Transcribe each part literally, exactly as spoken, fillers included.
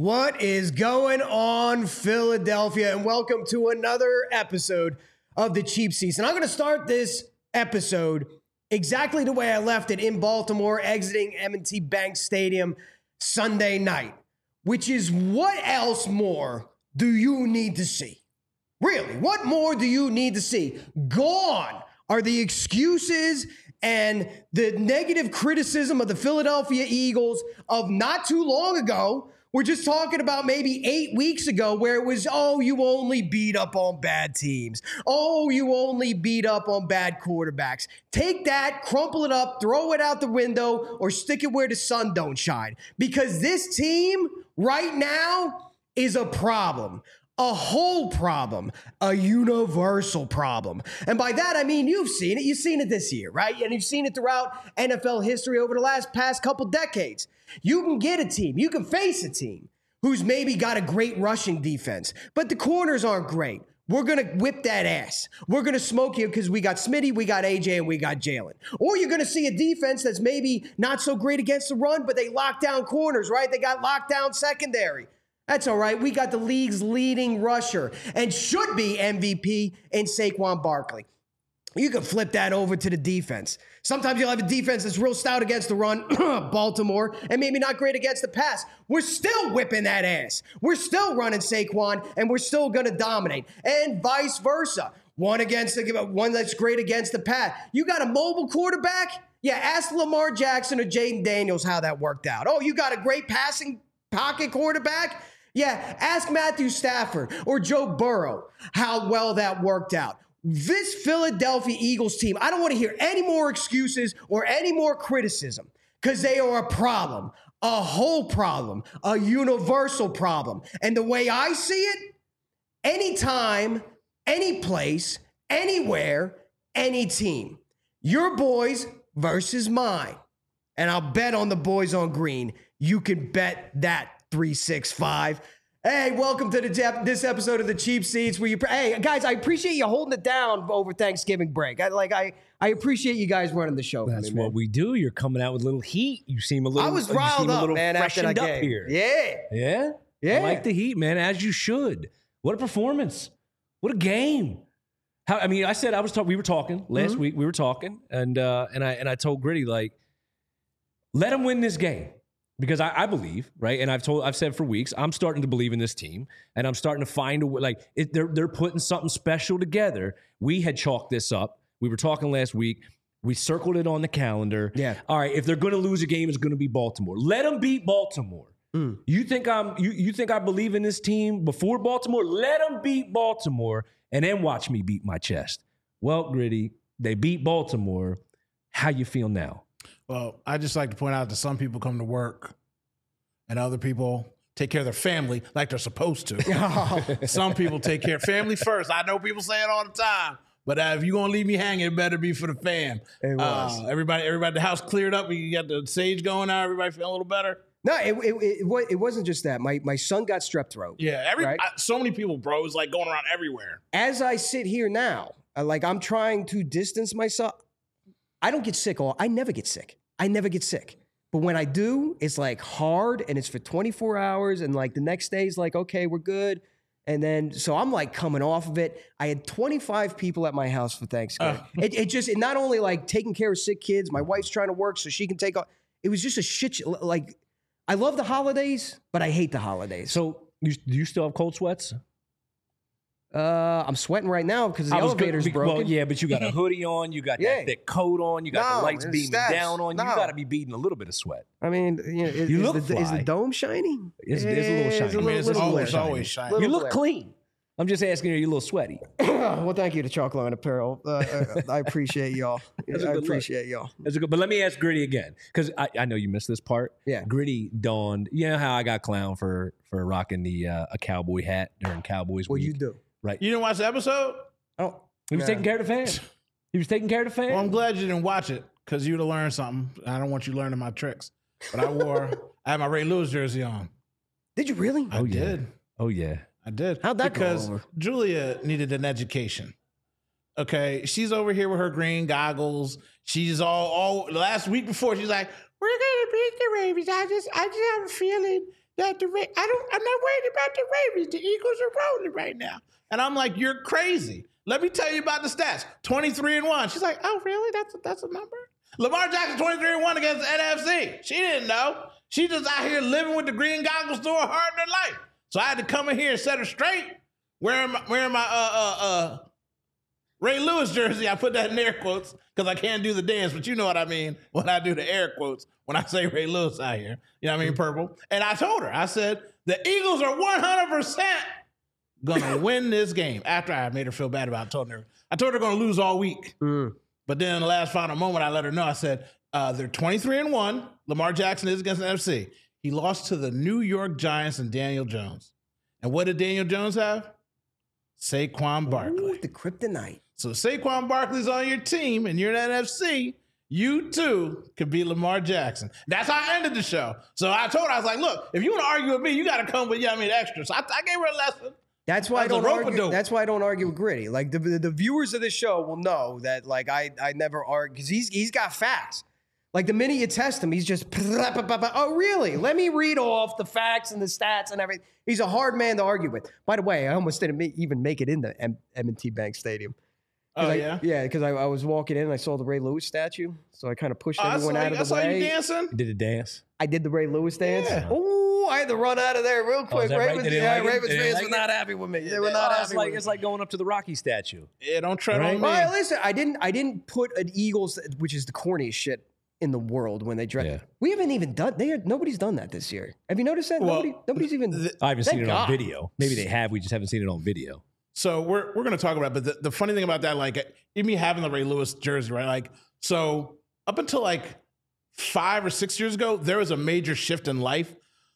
What is going on, Philadelphia? And welcome to another episode of the Cheap Seats. And I'm going to start this episode exactly the way I left it in Baltimore, exiting M and T Bank Stadium Sunday night, which is what else more do you need to see? Really, what more do you need to see? Gone are the excuses and the negative criticism of the Philadelphia Eagles of not too long ago. We're just talking about maybe eight weeks ago where it was, oh, you only beat up on bad teams. Oh, you only beat up on bad quarterbacks. Take that, crumple it up, throw it out the window, or stick it where the sun don't shine. Because this team right now is a problem. A whole problem, a universal problem. And by that, I mean, you've seen it. You've seen it this year, right? And you've seen it throughout N F L history over the last past couple decades. You can get a team, you can face a team who's maybe got a great rushing defense, but the corners aren't great. We're going to whip that ass. We're going to smoke you because we got Smitty, we got A J, and we got Jalen. Or you're going to see a defense that's maybe not so great against the run, but they lock down corners, right? They got locked down secondary. That's all right. We got the league's leading rusher and should be M V P in Saquon Barkley. You can flip that over to the defense. Sometimes you'll have a defense that's real stout against the run, Baltimore, and maybe not great against the pass. We're still whipping that ass. We're still running Saquon, and we're still going to dominate. And vice versa. One against the, one that's great against the pass. You got a mobile quarterback? Yeah, ask Lamar Jackson or Jaden Daniels how that worked out. Oh, you got a great passing pocket quarterback? Yeah, ask Matthew Stafford or Joe Burrow how well that worked out. This Philadelphia Eagles team, I don't want to hear any more excuses or any more criticism because they are a problem, a whole problem, a universal problem. And the way I see it, anytime, any place, anywhere, any team, your boys versus mine. And I'll bet on the boys on green. You can bet that three six five. Hey, welcome to the this episode of the Cheap Seats. Where you, hey guys, I appreciate you holding it down over Thanksgiving break. I like, I, I appreciate you guys running the show. That's me, what we do. You're coming out with a little heat. You seem a little. I was riled up, man. After that game, here. yeah, yeah, yeah. I like the heat, man. As you should. What a performance! What a game! How? I mean, I said I was talking. We were talking last mm-hmm. week. We were talking, and uh, and I and I told Gritty like, let him win this game. Because I, I believe, right, and I've told, I've said for weeks, I'm starting to believe in this team, and I'm starting to find a way. Like it, they're they're putting something special together. We had chalked this up. We were talking last week. We circled it on the calendar. Yeah. All right. If they're going to lose a game, it's going to be Baltimore. Let them beat Baltimore. Mm. You think I'm? You you think I believe in this team before Baltimore? Let them beat Baltimore, and then watch me beat my chest. Well, Gritty, they beat Baltimore. How you feel now? Well, I just like to point out that some people come to work and other people take care of their family like they're supposed to. Some people take care of family first. I know people say it all the time, but uh, if you're going to leave me hanging, it better be for the fam. It was. Uh, everybody, everybody, the house cleared up. You got the sage going out. Everybody feeling a little better. No, it, it, it, it wasn't just that. My my son got strep throat. Yeah, every right? I, so many people, bro, is like going around everywhere. As I sit here now, I, like I'm trying to distance myself. I don't get sick. All I never get sick. I never get sick. But when I do, it's like hard and it's for twenty-four hours. And like the next day is like, okay, we're good. And then, so I'm like coming off of it. I had twenty-five people at my house for Thanksgiving. Uh. It, it just, it not only like taking care of sick kids, my wife's trying to work so she can take off. It was just a shit, sh- like, I love the holidays, but I hate the holidays. So you, do you still have cold sweats? Uh, I'm sweating right now because the elevator's good, broken. Well, yeah, but you got a hoodie on, you got yeah. that thick coat on, you got no, the lights beaming steps. down on you. No. You got to be beating a little bit of sweat. I mean, you, know, is, you is, look the, fly. is the dome shiny? It's, it's a little shiny. It's, a little, I mean, it's little always, shiny. always shiny. You Little look glare. clean. I'm just asking you, you're a little sweaty. Well, thank you to Chalk Line Apparel. Uh, I appreciate y'all. I appreciate y'all. That's a good. But let me ask Gritty again, because I, I know you missed this part. Yeah. Gritty donned. You know how I got clown for for rocking the uh, a cowboy hat during Cowboys Well, week? you do. Right. You didn't watch the episode? Oh, He was nah. taking care of the fans. He was taking care of the fans. Well, I'm glad you didn't watch it because you'd have learned something. I don't want you learning my tricks. But I wore, I had my Ray Lewis jersey on. Did you really? I Oh, yeah. did. Oh yeah. I did. How'd that go because over? Julia needed an education. Okay, she's over here with her green goggles. She's all all last week before. She's like, "We're gonna beat the Ravens." I just, I just have a feeling that the Ra- I don't. I'm not worried about the Ravens. The Eagles are rolling right now, and I'm like, you're crazy. Let me tell you about the stats. twenty-three and one. She's like, oh, really? That's a, that's a number. Lamar Jackson twenty-three and one against the N F C. She didn't know. She just out here living with the green goggles doing hard in her life. So I had to come in here and set her straight. Wearing my, wearing my uh uh uh Ray Lewis jersey. I put that in air quotes because I can't do the dance, but you know what I mean when I do the air quotes when I say Ray Lewis out here. You know what I mean? Purple. And I told her, I said, the Eagles are one hundred percent gonna win this game. After I made her feel bad about it, I told her, I told her they're gonna lose all week. Mm. But then in the last final moment, I let her know, I said, uh, they're twenty-three and one. Lamar Jackson is against the N F C. He lost to the New York Giants and Daniel Jones. And what did Daniel Jones have? Saquon Barkley. Ooh, the kryptonite. So Saquon Barkley's on your team and you're in the N F C, you too could be Lamar Jackson. That's how I ended the show. So I told her, I was like, look, if you want to argue with me, you got to come with, yeah, I mean, extra. So I, I gave her a lesson. That's why I don't argue. Dope. That's why I don't argue with Gritty. Like the, the, the viewers of this show will know that like I I never argue because he's he's got facts. Like the minute you test him, he's just oh really? Let me read off the facts and the stats and everything. He's a hard man to argue with. By the way, I almost didn't make, even make it into M- M&T Bank Stadium. Oh I, yeah, yeah, because I, I was walking in and I saw the Ray Lewis statue, so I kind of pushed oh, everyone out of the I saw way. You dancing? You did a dance. I did the Ray Lewis dance. Yeah. Oh, I had to run out of there real quick. that right? Ravens, They didn't yeah, like it? Ravens They didn't fans like were it? not happy with me. They were Oh, not happy it's like with me. it's like going up to the Rocky statue. Yeah, don't tread Right? on me. Well, listen, I didn't. I didn't put an Eagles, which is the corniest shit in the world when they dress. Yeah. We haven't even done. They are, nobody's done that this year. Have you noticed that? Well, Nobody. Nobody's even. the- I haven't Thank seen it God. on video. Maybe they have. We just haven't seen it on video. So we're we're gonna talk about it, but the, the funny thing about that, like even me having the Ray Lewis jersey, right? Like, so up until like five or six years ago, there was a major shift in life.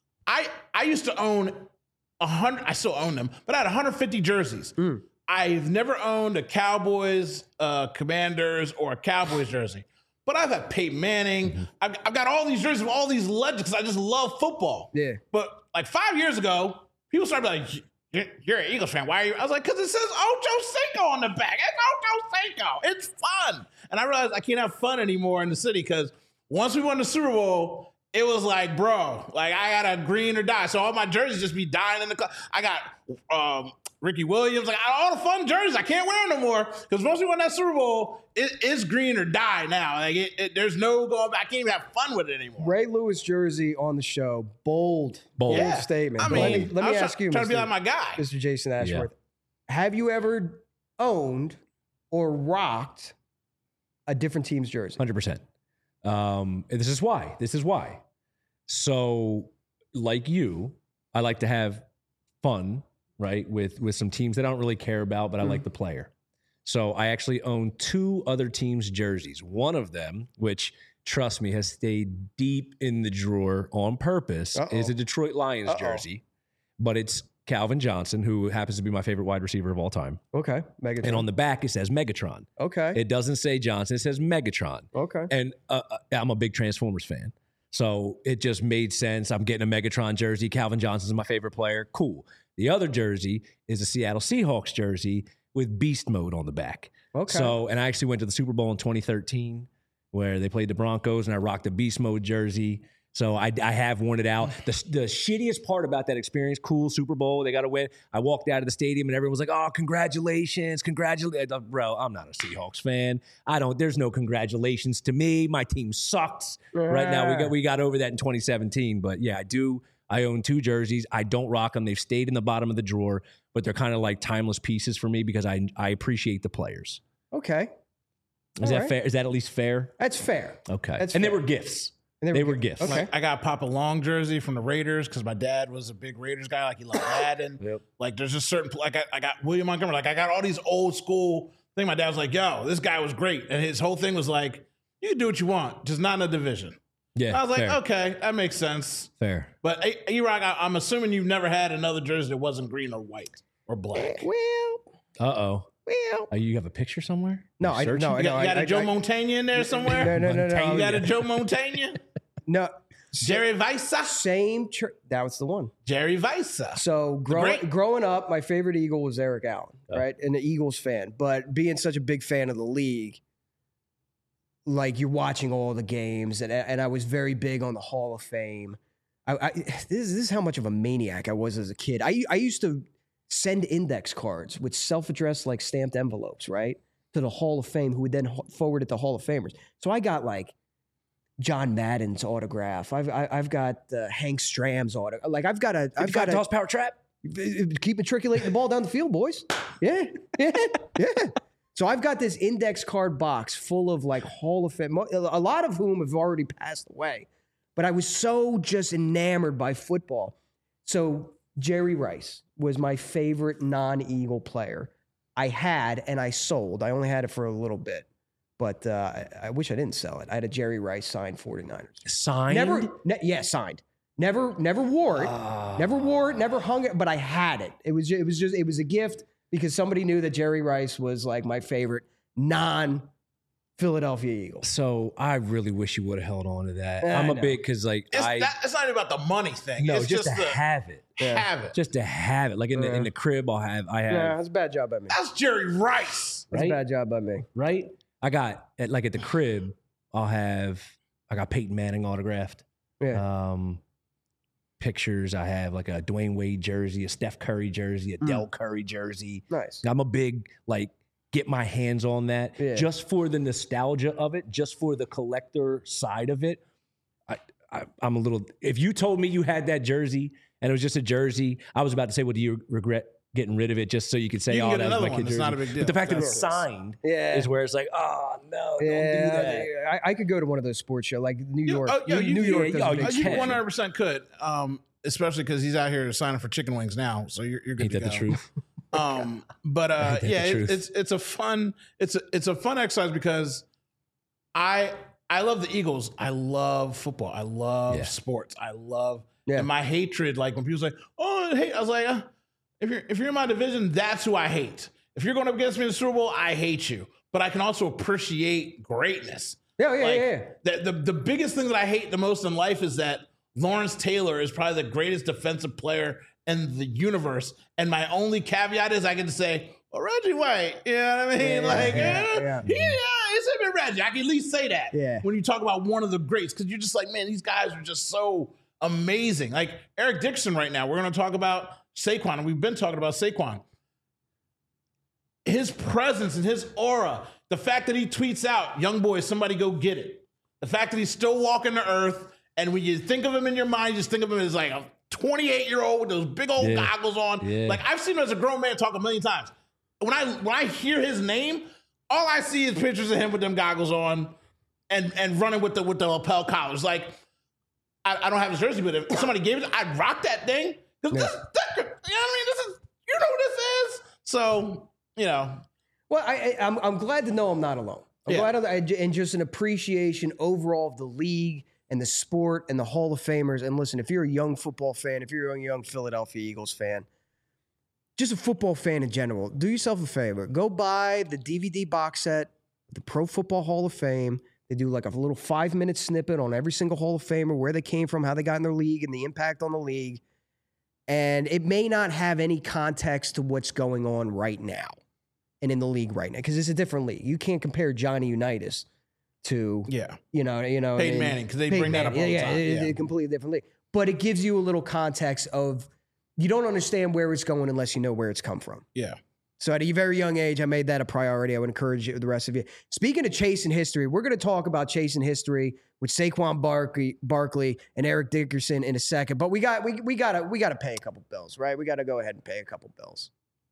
I I used to own a hundred, I still own them, but I had one hundred fifty jerseys. Mm. I've never owned a Cowboys, uh, Commanders, or a Cowboys jersey. But I've had Peyton Manning. Mm-hmm. I've, I've got all these jerseys of all these legends because I just love football. Yeah. But like five years ago, people started like, You're, you're an Eagles fan. Why are you? I was like, because it says Ocho Cinco on the back. It's Ocho Cinco. It's fun. And I realized I can't have fun anymore in the city because once we won the Super Bowl, it was like, bro, like I got to green or die. So all my jerseys just be dying in the club. I got um, Ricky Williams, like all the fun jerseys. I can't wear them no more because once we won that Super Bowl, it, it's green or die now. Like it, it, there's no going back. I can't even have fun with it anymore. Ray Lewis jersey on the show. Bold, bold Yeah. statement. I But mean, let me, let I me was ask you, trying to be Mister like my guy. Mister Jason Ashworth. Have you ever owned or rocked a different team's jersey? one hundred percent. Um, and this is why. This is why. So, like you, I like to have fun, right, with with some teams that I don't really care about, but I Mm. like the player. So I actually own two other teams' jerseys. One of them, which, trust me, has stayed deep in the drawer on purpose, Uh-oh. is a Detroit Lions Uh-oh. jersey. But it's Calvin Johnson, who happens to be my favorite wide receiver of all time. Okay, Megatron. And on the back, it says Megatron. okay, It doesn't say Johnson, it says Megatron. okay. And uh, uh, I'm a big Transformers fan. So it just made sense. I'm getting a Megatron jersey. Calvin Johnson's my favorite player. Cool. The other jersey is a Seattle Seahawks jersey with Beast Mode on the back. Okay. So, and I actually went to the Super Bowl in twenty thirteen where they played the Broncos and I rocked a Beast Mode jersey. So I, I have worn it out. The, the shittiest part about that experience, cool Super Bowl, they got to win. I walked out of the stadium and everyone was like, oh, congratulations, congratulations. Bro, I'm not a Seahawks fan. I don't, there's no congratulations to me. My team sucks. Right now, we got we got over that in twenty seventeen. But yeah, I do. I own two jerseys. I don't rock them. They've stayed in the bottom of the drawer, but they're kind of like timeless pieces for me because I I appreciate the players. Okay. Is All that right. fair? Is that at least fair? That's fair. Okay. That's and they fair. were gifts. And They were gifts. Okay. Like, I got Papa Long jersey from the Raiders because my dad was a big Raiders guy. Like he loved Madden. Yep. Like there's just certain like I, I got William Montgomery. Like I got all these old school thing. My dad was like, "Yo, this guy was great," and his whole thing was like, "You can do what you want, just not in a division." Yeah. I was like, fair. "Okay, that makes sense." Fair. But E-Rock, I'm assuming you've never had another jersey that wasn't green or white or black. Well, Uh oh. well. Oh, you have a picture somewhere? No, You're I searching? no, You got, I you got I- a Joe I- Montaigne in there somewhere? No, no, no, no. You got a no. Joe Montaigne? No. Jerry Visa? Same. Tr- that was the one. Jerry Visa. So growing great- growing up, my favorite Eagle was Eric Allen, Oh. right? And an Eagles fan. But being such a big fan of the league, like you're watching all the games, and and I was very big on the Hall of Fame. I, I this, this is how much of a maniac I was as a kid. I I used to send index cards with self-addressed like stamped envelopes, right, to the Hall of Fame, who would then forward it to Hall of Famers. So I got like John Madden's autograph. I've I, I've got uh, Hank Stram's autograph. Like I've got a I've got a toss power trap. Keep matriculating the ball down the field, boys. Yeah, yeah, yeah. So I've got this index card box full of like Hall of Fame, a lot of whom have already passed away. But I was so just enamored by football. So Jerry Rice was my favorite non-Eagle player. I had and I sold. I only had it for a little bit. But uh, I, I wish I didn't sell it. I had a Jerry Rice signed forty-niners. Signed? Never, ne- yeah, signed. Never, never wore it. Uh, never wore it. Never hung it. But I had it. It was, it was just, it was a gift because somebody knew that Jerry Rice was like my favorite non-Philadelphia Eagle. So I really wish you would have held on to that. Yeah, I'm I a know. big because like It's, I that, it's not even about the money thing. no it's just, just, to the have it, have it. just to have it. Like in the Yeah. in the crib, I'll have I have Yeah, that's a bad job by me. That's Jerry Rice. That's right? a bad job by me. right. I got at like at the crib, I'll have I got Peyton Manning autographed. Yeah. Um, pictures. I have like a Dwayne Wade jersey, a Steph Curry jersey, a Mm. Del Curry jersey. Nice. I'm a big like get my hands on that Yeah. just for the nostalgia of it, just for the collector side of it. I, I I'm a little. If you told me you had that jersey and it was just a jersey, I was about to say, well, do you regret getting rid of it just so you could say, You can oh, get that was another my one. kid's It's jersey. not a big deal. But the fact that it's That's- signed Yeah. is where it's like, oh no, don't yeah, do that. I, I could go to one of those sports shows like New You- York. oh, yo, New, you- New York. yeah, does yo, a you big Uh, you can. one hundred percent could, um, especially because he's out here signing for chicken wings now. So you're, you're good Ain't to that the go. truth? Um, but uh, Ain't that yeah, the it, truth? it's it's a fun it's a, it's a fun exercise because I I love the Eagles. I love football. I love Yeah. sports. I love Yeah. and my hatred. Like when people say, "Oh, I hate," I was like, uh, if you're if you're in my division, that's who I hate. If you're going up against me in the Super Bowl, I hate you. But I can also appreciate greatness. Yeah, yeah, Like, yeah, yeah. The, the the biggest thing that I hate the most in life is that Lawrence Taylor is probably the greatest defensive player in the universe. And my only caveat is I can say, well, Reggie White, you know what I mean? Yeah, like, yeah, eh, yeah. he, yeah, it's him and Reggie. I can at least say that Yeah. when you talk about one of the greats, because you're just like, man, these guys are just so amazing. Like Eric Dixon right now, we're going to talk about Saquon, and we've been talking about Saquon. His presence and his aura, the fact that he tweets out, young boys, somebody go get it. The fact that he's still walking the earth, and when you think of him in your mind, you just think of him as like a twenty-eight-year-old with those big old Yeah. goggles on. Yeah. Like I've seen him as a grown man talk a million times. When I when I hear his name, all I see is pictures of him with them goggles on and and running with the with the lapel collars. Like I, I don't have his jersey, but if somebody gave it, I'd rock that thing. Because this, this, you know what I mean? This is you know who this is. So you know, Well, I, I, I'm I'm glad to know I'm not alone. I'm Yeah. glad, I, and just an appreciation overall of the league and the sport and the Hall of Famers. And listen, if you're a young football fan, if you're a young Philadelphia Eagles fan, just a football fan in general, do yourself a favor. Go buy the D V D box set, the Pro Football Hall of Fame. They do like a little five minute snippet on every single Hall of Famer, where they came from, how they got in their league, and the impact on the league. And it may not have any context to what's going on right now and in the league right now, because it's a different league. You can't compare Johnny Unitas to, yeah. you know, you know, Peyton and- Manning, 'cause they Peyton bring that up all Manning. the yeah, time. Yeah, it's Yeah. a completely different league. But it gives you a little context of you don't understand where it's going unless you know where it's come from. Yeah. So at a very young age, I made that a priority. I would encourage you, the rest of you. Speaking of chasing history, we're going to talk about chasing history with Saquon Barkley, Barkley and Eric Dickerson in a second. But we got we we got to we got to pay a couple bills, right? We got to go ahead and pay a couple bills.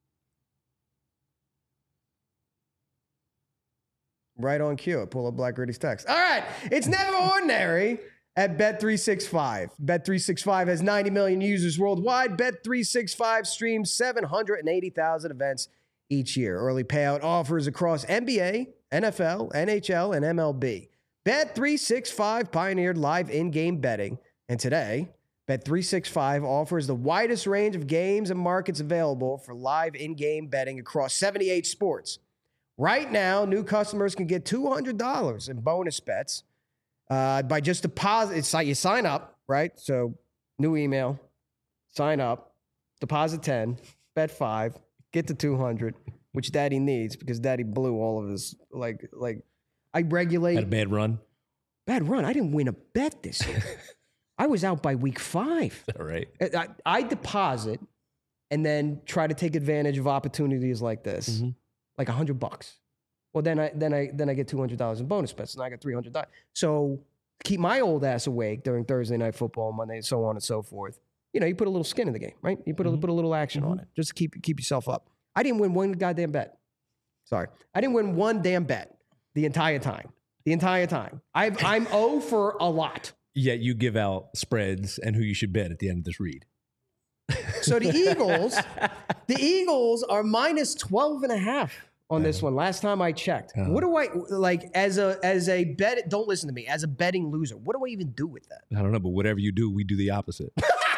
Right on cue. Pull up Black Gritty's text. All right, it's never ordinary at Bet three sixty-five. Bet three sixty-five has ninety million users worldwide. Bet three sixty-five streams seven hundred eighty thousand events each year. Early payout offers across N B A, N F L, N H L, and M L B. Bet three sixty-five pioneered live in-game betting, and today, Bet three sixty-five offers the widest range of games and markets available for live in-game betting across seventy-eight sports. Right now, new customers can get two hundred dollars in bonus bets uh, by just deposit. It's like you sign up, right? So, new email, sign up, deposit ten, bet five, get to two hundred, which Daddy needs because Daddy blew all of his like like. I regulate Had a bad run. bad run. I didn't win a bet this year. I was out by week five. All right. I, I deposit and then try to take advantage of opportunities like this, Mm-hmm. like a hundred bucks. Well, then I then I then I get two hundred dollars in bonus bets, and I got three hundred dollars. So keep my old ass awake during Thursday night football, Monday, and so on and so forth. You know, you put a little skin in the game, right? You put a, Mm-hmm. put a little action Mm-hmm. on it, just to keep keep yourself up. I didn't win one goddamn bet. Sorry, I didn't win one damn bet the entire time. The entire time. I've, I'm O for a lot. Yet you give out spreads and who you should bet at the end of this read. So the Eagles, the Eagles are minus twelve and a half on this one. Last time I checked. Uh-huh. What do I like as a as a bet? Don't listen to me. As a betting loser, what do I even do with that? I don't know, but whatever you do, we do the opposite.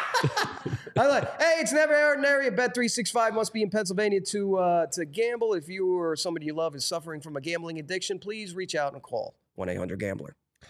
I like, hey, it's never ordinary. A Bet three sixty-five must be in Pennsylvania to uh, to gamble. If you or somebody you love is suffering from a gambling addiction, please reach out and call one eight hundred gambler.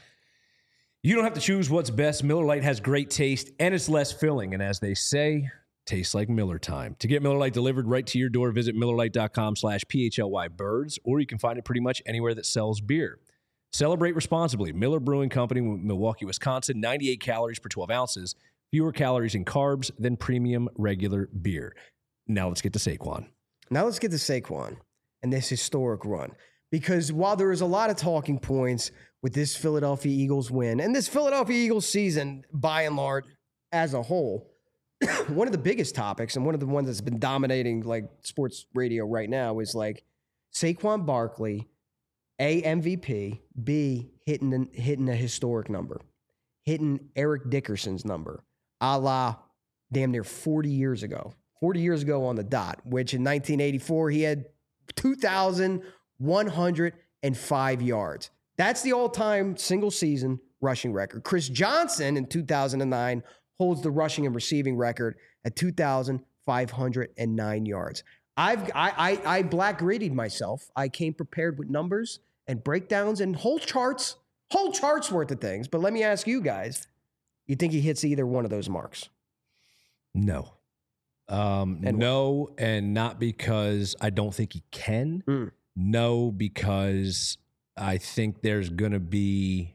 You don't have to choose what's best. Miller Lite has great taste and it's less filling. And as they say, tastes like Miller time. To get Miller Lite delivered right to your door, visit MillerLite.com slash PHLY birds, or you can find it pretty much anywhere that sells beer. Celebrate responsibly. Miller Brewing Company, Milwaukee, Wisconsin, ninety-eight calories per twelve ounces. Fewer calories and carbs than premium regular beer. Now let's get to Saquon. Now let's get to Saquon and this historic run. Because while there is a lot of talking points with this Philadelphia Eagles win and this Philadelphia Eagles season, by and large, as a whole, one of the biggest topics and one of the ones that's been dominating like sports radio right now is like Saquon Barkley, A, M V P, B, hitting, hitting a historic number, hitting Eric Dickerson's number, a la damn near forty years ago. forty years ago on the dot, which in nineteen eighty-four, he had two thousand one hundred five yards. That's the all-time single-season rushing record. Chris Johnson in two thousand nine holds the rushing and receiving record at two thousand five hundred nine yards. I've I I, I black graded myself. I came prepared with numbers and breakdowns and whole charts, whole charts worth of things. But let me ask you guys, you think he hits either one of those marks? No. Um, And no, and not because I don't think he can. Mm. No, because I think there's going to be...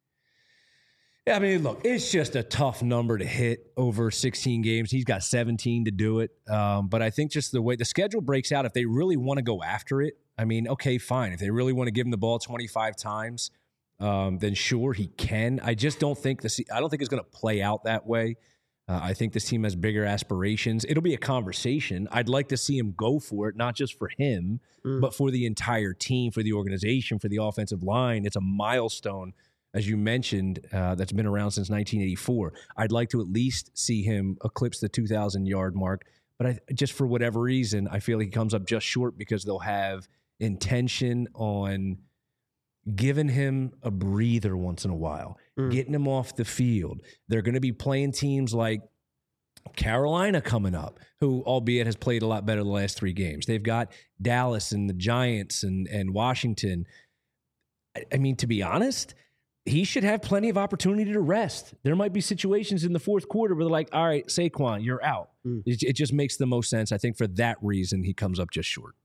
Yeah, I mean, look, it's just a tough number to hit over sixteen games. He's got seventeen to do it. Um, but I think just the way the schedule breaks out, if they really want to go after it, I mean, okay, fine. If they really want to give him the ball twenty-five times, um, then sure, he can. I just don't think the I don't think it's going to play out that way. Uh, I think this team has bigger aspirations. It'll be a conversation. I'd like to see him go for it, not just for him, mm. but for the entire team, for the organization, for the offensive line. It's a milestone, as you mentioned, uh, that's been around since nineteen eighty-four. I'd like to at least see him eclipse the two thousand yard mark. But I, just for whatever reason, I feel like he comes up just short because they'll have intention on giving him a breather once in a while, mm. getting him off the field. They're going to be playing teams like Carolina coming up, who, albeit has played a lot better the last three games. They've got Dallas and the Giants and, and Washington. I, I mean, to be honest, he should have plenty of opportunity to rest. There might be situations in the fourth quarter where they're like, all right, Saquon, you're out. Mm. It, it just makes the most sense. I think for that reason, he comes up just short.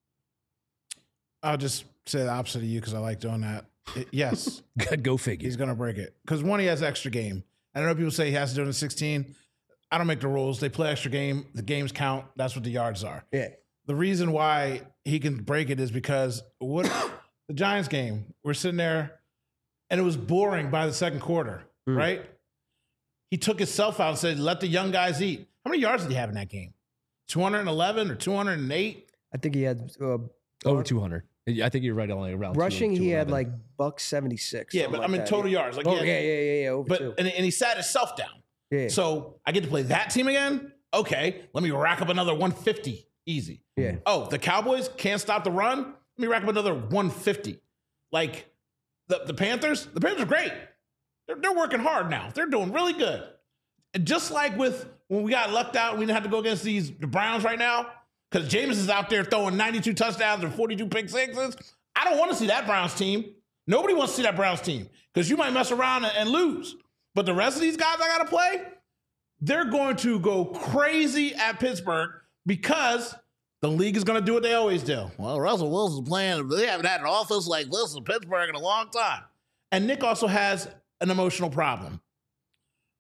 I'll just say the opposite of you because I like doing that. It, yes. Go figure. He's going to break it. Because one, he has extra game. I know people say he has to do it in sixteen. I don't make the rules. They play extra game. The games count. That's what the yards are. Yeah. The reason why he can break it is because what the Giants game, we're sitting there, and it was boring by the second quarter, mm. right? He took himself out and said, let the young guys eat. How many yards did he have in that game? two hundred eleven or two hundred eight? I think he had... Uh, Over two hundred. I think you're right only around rushing. He had like buck seventy-six. Yeah, but like I mean that. total yards. Like oh, had, yeah, yeah, yeah, yeah. Over but two. And, and he sat himself down. Yeah. So I get to play that team again. Okay, let me rack up another one fifty. Easy. Yeah. Oh, the Cowboys can't stop the run. Let me rack up another one fifty. Like the the Panthers. The Panthers are great. They're they're working hard now. They're doing really good. And just like with when we got lucked out, we didn't have to go against these the Browns right now. Because Jameis is out there throwing ninety-two touchdowns and forty-two pick sixes. I don't want to see that Browns team. Nobody wants to see that Browns team because you might mess around and, and lose. But the rest of these guys I got to play, they're going to go crazy at Pittsburgh because the league is going to do what they always do. Well, Russell Wilson's playing. They haven't had an offense like this in Pittsburgh in a long time. And Nick also has an emotional problem.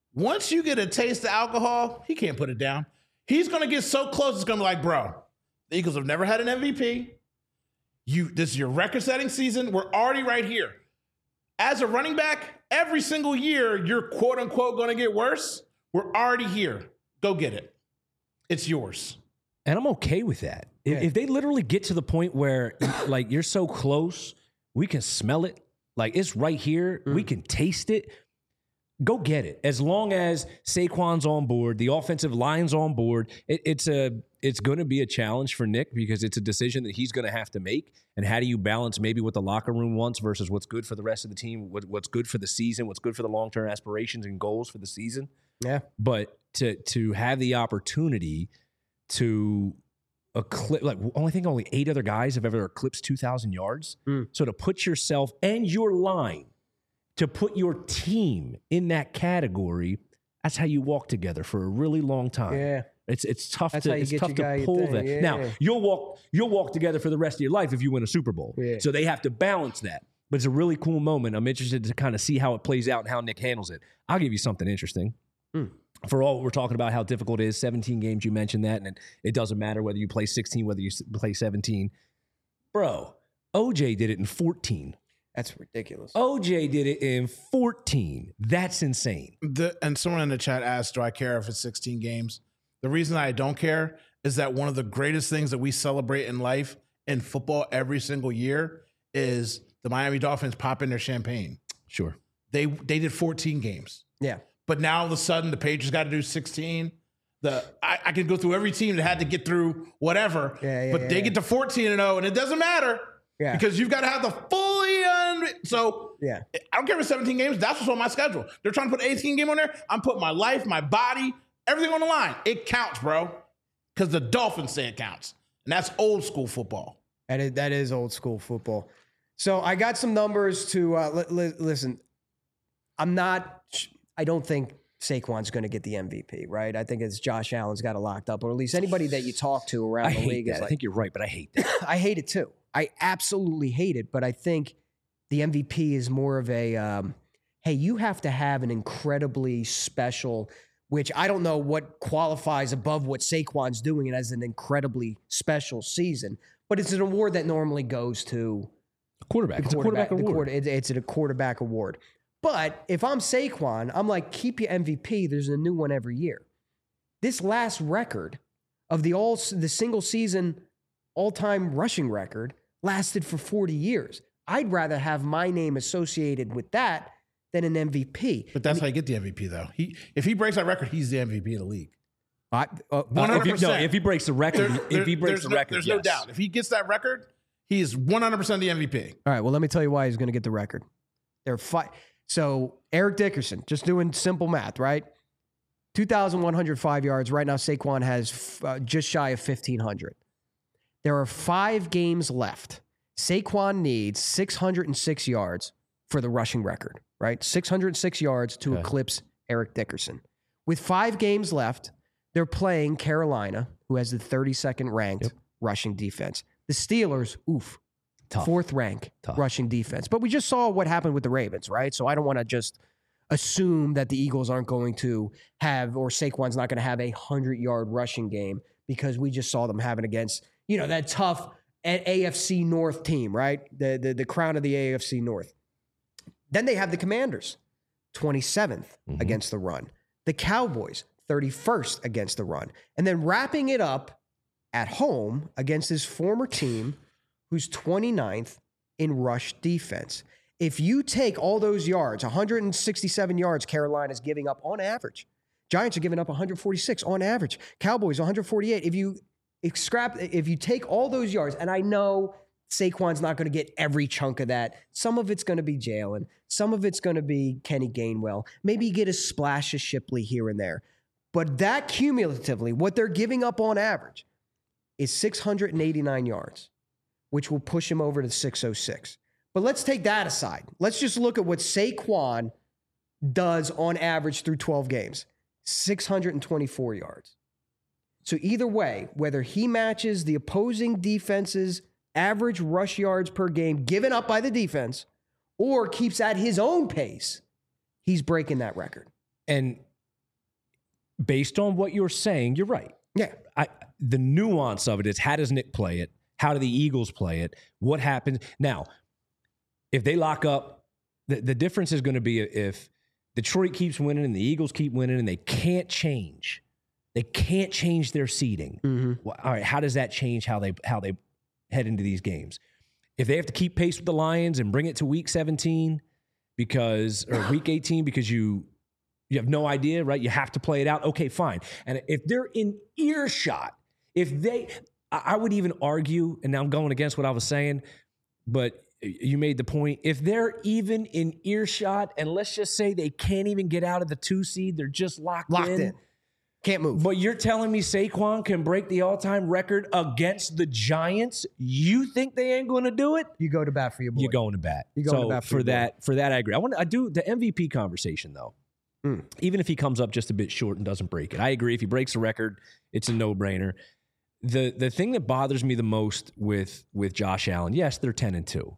Once you get a taste of alcohol, he can't put it down. He's going to get so close, it's going to be like, bro, the Eagles have never had an M V P. You, this is your record-setting season. We're already right here. As a running back, every single year, you're quote-unquote going to get worse. We're already here. Go get it. It's yours. And I'm okay with that. If, Yeah. if they literally get to the point where, like, you're so close, we can smell it. Like, it's right here. Mm. We can taste it. Go get it. As long as Saquon's on board, the offensive line's on board, it, it's a it's going to be a challenge for Nick because it's a decision that he's going to have to make. And how do you balance maybe what the locker room wants versus what's good for the rest of the team, what, what's good for the season, what's good for the long-term aspirations and goals for the season? Yeah. But to to have the opportunity to eclipse, like only think only eight other guys have ever eclipsed two thousand yards. Mm. So to put yourself and your line, to put your team in that category, that's how you walk together for a really long time. Yeah. It's it's tough That's to how you it's get tough your to guy your pull thing. that. Yeah, now yeah. you'll walk you'll walk together for the rest of your life if you win a Super Bowl. Yeah. So they have to balance that. But it's a really cool moment. I'm interested to kind of see how it plays out and how Nick handles it. I'll give you something interesting. Hmm. For all we're talking about how difficult it is, seventeen games, you mentioned that, and it, it doesn't matter whether you play sixteen, whether you s- play seventeen. Bro, O J did it in fourteen. That's ridiculous. O J did it in fourteen. That's insane. The, and someone in the chat asked, do I care if it's sixteen games? The reason I don't care is that one of the greatest things that we celebrate in life in football every single year is the Miami Dolphins popping their champagne. Sure. They they did fourteen games. Yeah. But now all of a sudden the Patriots got to do sixteen. The I, I can go through every team that had to get through whatever. Yeah, yeah, but yeah, they yeah. get to fourteen and oh, and it doesn't matter. Yeah. Because you've got to have the fully un- so Yeah. I don't care if it's seventeen games. That's what's on my schedule. They're trying to put eighteen game on there. I'm putting my life, my body, everything on the line. It counts, bro. Because the Dolphins say it counts. And that's old school football. That is, that is old school football. So I got some numbers to uh, li- li- listen. I'm not. I don't think Saquon's going to get the M V P, right? I think it's Josh Allen's got it locked up, or at least anybody that you talk to around I the hate league that. is I like. think you're right, but I hate that. I hate it too. I absolutely hate it, but I think the M V P is more of a. Um, hey, you have to have an incredibly special. Which I don't know what qualifies above what Saquon's doing as an incredibly special season, but it's an award that normally goes to Quarterback. the It's a quarterback the award. quarter- it- it's a quarterback award. But if I'm Saquon, I'm like, keep your M V P. There's a new one every year. This last record of the all the single season all time rushing record lasted for forty years. I'd rather have my name associated with that than an M V P. But that's how you get the M V P, though. He if he breaks that record, he's the M V P of the league. I, uh, one hundred If he, no, percent. if he breaks the record, There- if he there- breaks there's the no- record, there's yes. no doubt. If he gets that record, he is one hundred percent the M V P. All right, well, let me tell you why he's going to get the record. There are five. So Eric Dickerson, just doing simple math, right? two thousand one hundred five yards. Right now, Saquon has uh, just shy of fifteen hundred. There are five games left. Saquon needs six hundred six yards for the rushing record, right? six hundred six yards to Okay. eclipse Eric Dickerson. With five games left, they're playing Carolina, who has the thirty-second ranked Yep. rushing defense. The Steelers, oof, Tough. fourth rank Tough. rushing defense. But we just saw what happened with the Ravens, right? So I don't want to just assume that the Eagles aren't going to have, or Saquon's not going to have a hundred-yard rushing game because we just saw them having against, you know, that tough A F C North team, right? The, the, the crown of the A F C North. Then they have the Commanders, twenty-seventh Mhm. against the run. The Cowboys, thirty-first against the run. And then wrapping it up at home against his former team, who's twenty-ninth in rush defense. If you take all those yards, one hundred sixty-seven yards Carolina's giving up on average. Giants are giving up one hundred forty-six on average. Cowboys one hundred forty-eight. If you scrap, if you take all those yards, and I know Saquon's not going to get every chunk of that. Some of it's going to be Jalen. Some of it's going to be Kenny Gainwell. Maybe you get a splash of Shipley here and there. But that cumulatively, what they're giving up on average is six hundred eighty-nine yards, which will push him over to six oh six. But let's take that aside. Let's just look at what Saquon does on average through twelve games. six hundred twenty-four yards. So either way, whether he matches the opposing defense's average rush yards per game given up by the defense or keeps at his own pace, he's breaking that record. And based on what you're saying, you're right. Yeah. I, the nuance of it is, how does Nick play it? How do the Eagles play it? What happens? Now, if they lock up, the, the difference is going to be if Detroit keeps winning and the Eagles keep winning and they can't change. They can't change their seeding. Mm-hmm. Well, all right, how does that change how they how they head into these games? If they have to keep pace with the Lions and bring it to week seventeen because or week eighteen because you you have no idea, right? You have to play it out. Okay, fine. And if they're in earshot, if they I would even argue, and now I'm going against what I was saying, but you made the point. If they're even in earshot, and let's just say they can't even get out of the two seed, they're just locked, Locked in. in. Can't move. But you're telling me Saquon can break the all-time record against the Giants? You think they ain't going to do it? You go to bat for your boy. You're going to bat. You're going so to bat for for your boy. that. For that, I agree. I want. I do the M V P conversation though. Mm. Even if he comes up just a bit short and doesn't break it, I agree. If he breaks the record, it's a no-brainer. The the thing that bothers me the most with with Josh Allen, yes, they're ten and two.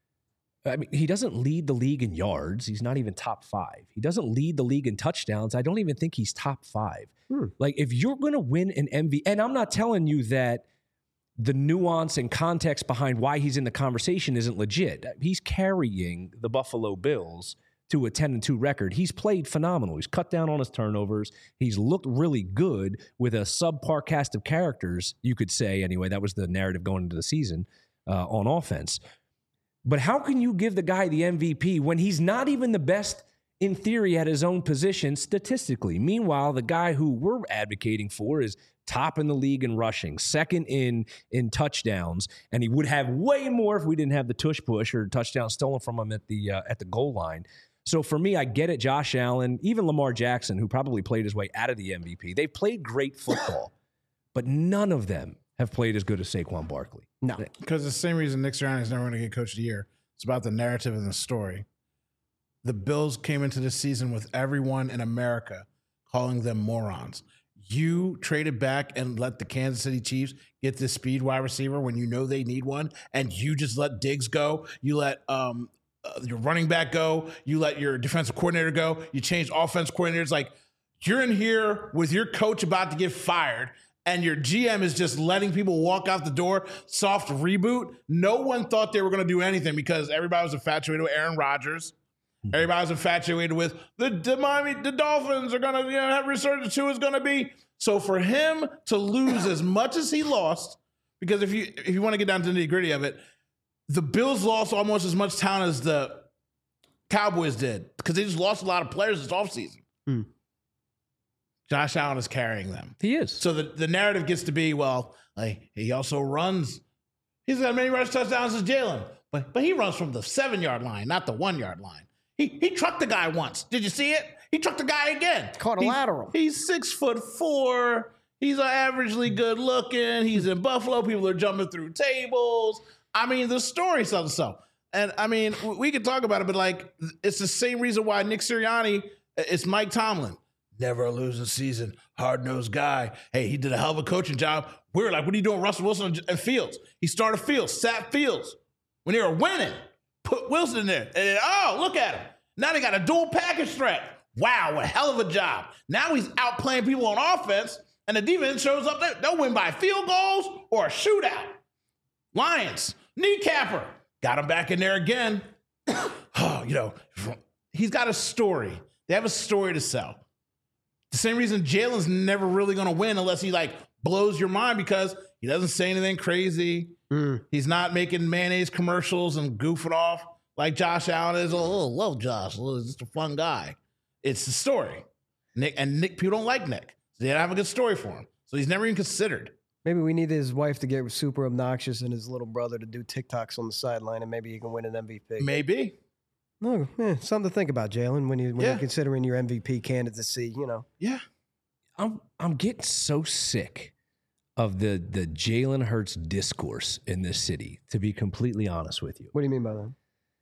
I mean, he doesn't lead the league in yards. He's not even top five. He doesn't lead the league in touchdowns. I don't even think he's top five. Hmm. Like, if you're going to win an M V P, and I'm not telling you that the nuance and context behind why he's in the conversation isn't legit. He's carrying the Buffalo Bills to a ten and two record. He's played phenomenal. He's cut down on his turnovers. He's looked really good with a subpar cast of characters, you could say. Anyway, that was the narrative going into the season uh, on offense. But how can you give the guy the M V P when he's not even the best in theory at his own position statistically? Meanwhile, the guy who we're advocating for is top in the league in rushing, second in in touchdowns, and he would have way more if we didn't have the tush push or touchdown stolen from him at the uh, at the goal line. So for me, I get it. Josh Allen, even Lamar Jackson, who probably played his way out of the M V P, they played great football, but none of them have played as good as Saquon Barkley. No. Because the same reason Nick Sirianni is never going to get Coach of the Year. It's about the narrative and the story. The Bills came into this season with everyone in America calling them morons. You traded back and let the Kansas City Chiefs get this speed wide receiver when you know they need one, and you just let Diggs go. You let um, uh, your running back go. You let your defensive coordinator go. You changed offense coordinators. Like, you're in here with your coach about to get fired, and your G M is just letting people walk out the door, soft reboot. No one thought they were going to do anything because everybody was infatuated with Aaron Rodgers. Everybody was infatuated with the, the Miami, the Dolphins are going to, you know, have resurgence. Who is going to be? So for him to lose as much as he lost, because if you if you want to get down to the nitty gritty of it, the Bills lost almost as much talent as the Cowboys did because they just lost a lot of players this offseason. Mm. Josh Allen is carrying them. He is. So the, the narrative gets to be, well, like, he also runs. He's got many rush touchdowns as Jalen, but but he runs from the seven-yard line, not the one-yard line. He he trucked the guy once. Did you see it? He trucked the guy again. Caught a he's, lateral. He's six foot four. He's averagely good looking. He's in Buffalo. People are jumping through tables. I mean, the story sells itself. And I mean, we could talk about it, but like, it's the same reason why Nick Sirianni, it's Mike Tomlin. Never a losing season, hard-nosed guy. Hey, he did a hell of a coaching job. We were like, what are you doing, Russell Wilson and Fields? He started Fields, sat Fields. When they were winning, put Wilson in there. And then, oh, look at him. Now they got a dual package threat. Wow, a hell of a job. Now he's outplaying people on offense, and the defense shows up there. They'll win by field goals or a shootout. Lions, kneecapper. Got him back in there again. Oh, you know, he's got a story. They have a story to sell. The same reason Jalen's never really going to win unless he, like, blows your mind because he doesn't say anything crazy. Mm. He's not making mayonnaise commercials and goofing off like Josh Allen is. Oh, love Josh. He's just a fun guy. It's the story. Nick and Nick, people don't like Nick. So they don't have a good story for him. So he's never even considered. Maybe we need his wife to get super obnoxious and his little brother to do TikToks on the sideline, and maybe he can win an M V P. Maybe. No, eh, something to think about, Jalen, when you when Yeah. you're considering your M V P candidacy. You know, Yeah. I'm I'm getting so sick of the the Jalen Hurts discourse in this city, to be completely honest with you. what do you mean by that?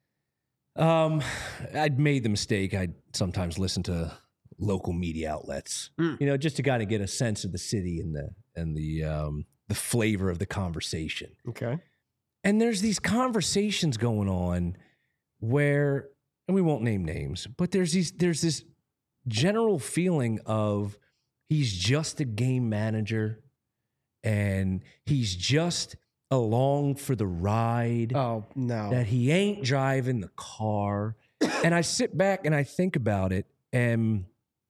Um, I'd made the mistake. I sometimes listen to local media outlets, Mm. you know, just to kind of get a sense of the city and the and the um, the flavor of the conversation. Okay. And there's these conversations going on where, and we won't name names, but there's these there's this general feeling of he's just a game manager and he's just along for the ride. Oh, no. That he ain't driving the car. And I sit back and I think about it, and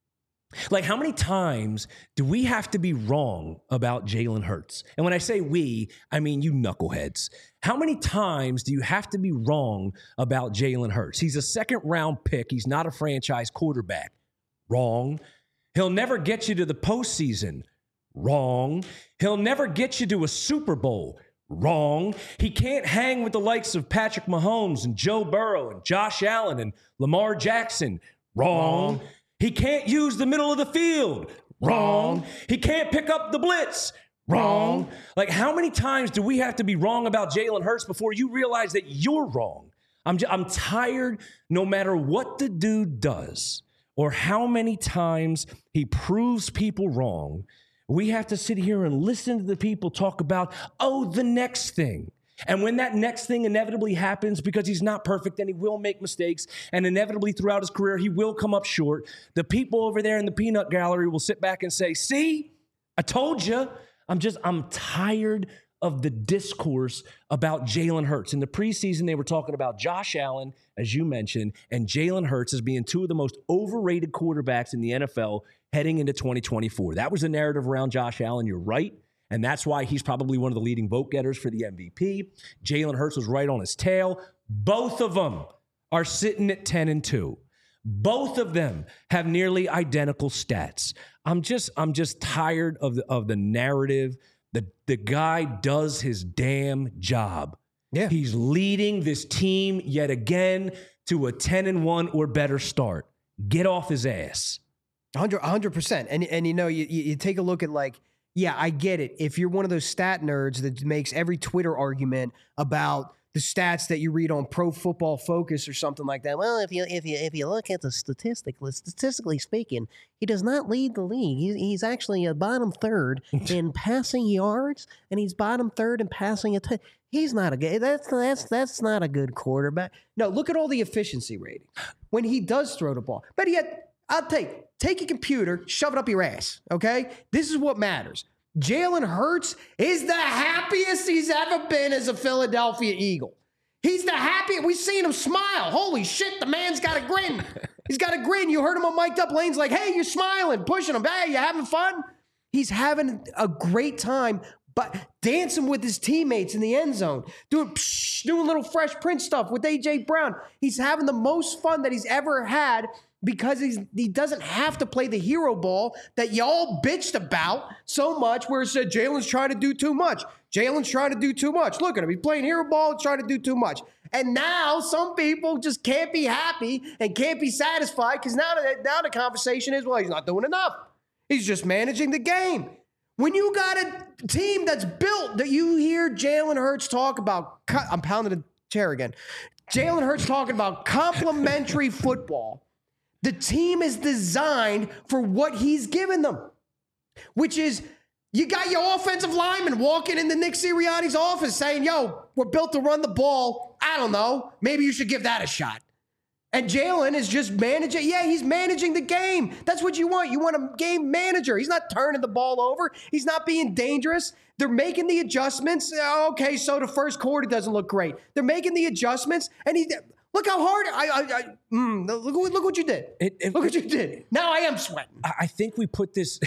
like, how many times do we have to be wrong about Jalen Hurts? And when I say we, I mean you knuckleheads. How many times do you have to be wrong about Jalen Hurts? He's a second round pick. He's not a franchise quarterback. Wrong. He'll never get you to the postseason. Wrong. He'll never get you to a Super Bowl. Wrong. He can't hang with the likes of Patrick Mahomes and Joe Burrow and Josh Allen and Lamar Jackson. Wrong. Wrong. He can't use the middle of the field. Wrong. Wrong. He can't pick up the blitz. Wrong. Wrong. Like, how many times do we have to be wrong about Jalen Hurts before you realize that you're wrong? I'm j- I'm tired, no matter what the dude does or how many times he proves people wrong, we have to sit here and listen to the people talk about, oh, the next thing. And when that next thing inevitably happens, because he's not perfect and he will make mistakes, and inevitably throughout his career, he will come up short, the people over there in the peanut gallery will sit back and say, see, I told you. I'm just, I'm tired of the discourse about Jalen Hurts. In the preseason, they were talking about Josh Allen, as you mentioned, and Jalen Hurts as being two of the most overrated quarterbacks in the N F L heading into twenty twenty-four. That was the narrative around Josh Allen. You're right. And that's why he's probably one of the leading vote getters for the M V P. Jalen Hurts was right on his tail. Both of them are sitting at ten and two. Both of them have nearly identical stats. I'm just, I'm just tired of the of the narrative. The, the guy does his damn job. Yeah. He's leading this team yet again to a ten and one or better start. Get off his ass. one hundred percent. And, and you know, you, you take a look at, like, yeah, I get it. If you're one of those stat nerds that makes every Twitter argument about the stats that you read on Pro Football Focus or something like that. Well, if you if you if you look at the statistic, statistically speaking, he does not lead the league. He, he's actually a bottom third in passing yards, and he's bottom third in passing. Att- he's not a good. That's that's that's not a good quarterback. No, look at all the efficiency rating when he does throw the ball. But yet, I'll take take a computer, shove it up your ass. Okay, this is what matters. Jalen Hurts is the happiest he's ever been as a Philadelphia Eagle. He's the happiest. We've seen him smile. Holy shit, the man's got a grin. He's got a grin. You heard him on Mic'd Up Lanes like, hey, you're smiling, pushing him. Hey, you having fun? He's having a great time, but dancing with his teammates in the end zone, doing, psh, doing little Fresh Prince stuff with A J Brown. He's having the most fun that he's ever had because he's, he doesn't have to play the hero ball that y'all bitched about so much, where it said Jalen's trying to do too much. Jalen's trying to do too much. Look at him. He's playing hero ball and trying to do too much. And now some people just can't be happy and can't be satisfied because now, now the conversation is, well, he's not doing enough. He's just managing the game. When you got a team that's built, that you hear Jalen Hurts talk about, I'm pounding the chair again. Jalen Hurts talking about complementary football. The team is designed for what he's given them, which is you got your offensive lineman walking into Nick Sirianni's office saying, yo, we're built to run the ball. I don't know. Maybe you should give that a shot. And Jalen is just managing. Yeah, he's managing the game. That's what you want. You want a game manager. He's not turning the ball over. He's not being dangerous. They're making the adjustments. Okay, so the first quarter doesn't look great. They're making the adjustments, and he... Look how hard I, I, I mm, look, look what you did. It, it, look what you did. Now I am sweating. I think we put this,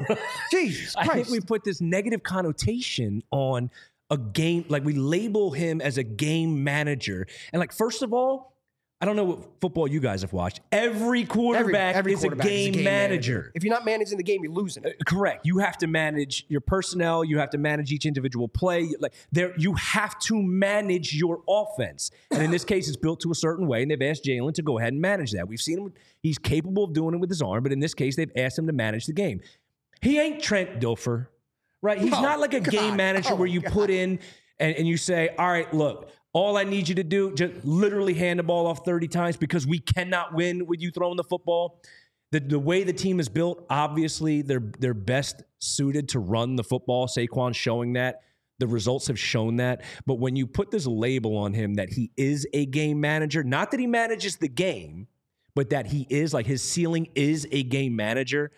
Jesus Christ. I think we put this negative connotation on a game, like we label him as a game manager. And like, first of all, I don't know what football you guys have watched. Every quarterback, every, every is, quarterback a is a game manager. manager. If you're not managing the game, you're losing it. Uh, correct. You have to manage your personnel. You have to manage each individual play. Like there, you have to manage your offense. And in this case, it's built to a certain way, and they've asked Jalen to go ahead and manage that. We've seen him. He's capable of doing it with his arm, but in this case, they've asked him to manage the game. He ain't Trent Dilfer, right? He's oh, not like a God. game manager oh, where you God. put in and, and you say, all right, look, all I need you to do, just literally hand the ball off thirty times because we cannot win with you throwing the football. The, the way the team is built, obviously, they're, they're best suited to run the football. Saquon's showing that. The results have shown that. But when you put this label on him that he is a game manager, not that he manages the game, but that he is, like his ceiling is a game manager,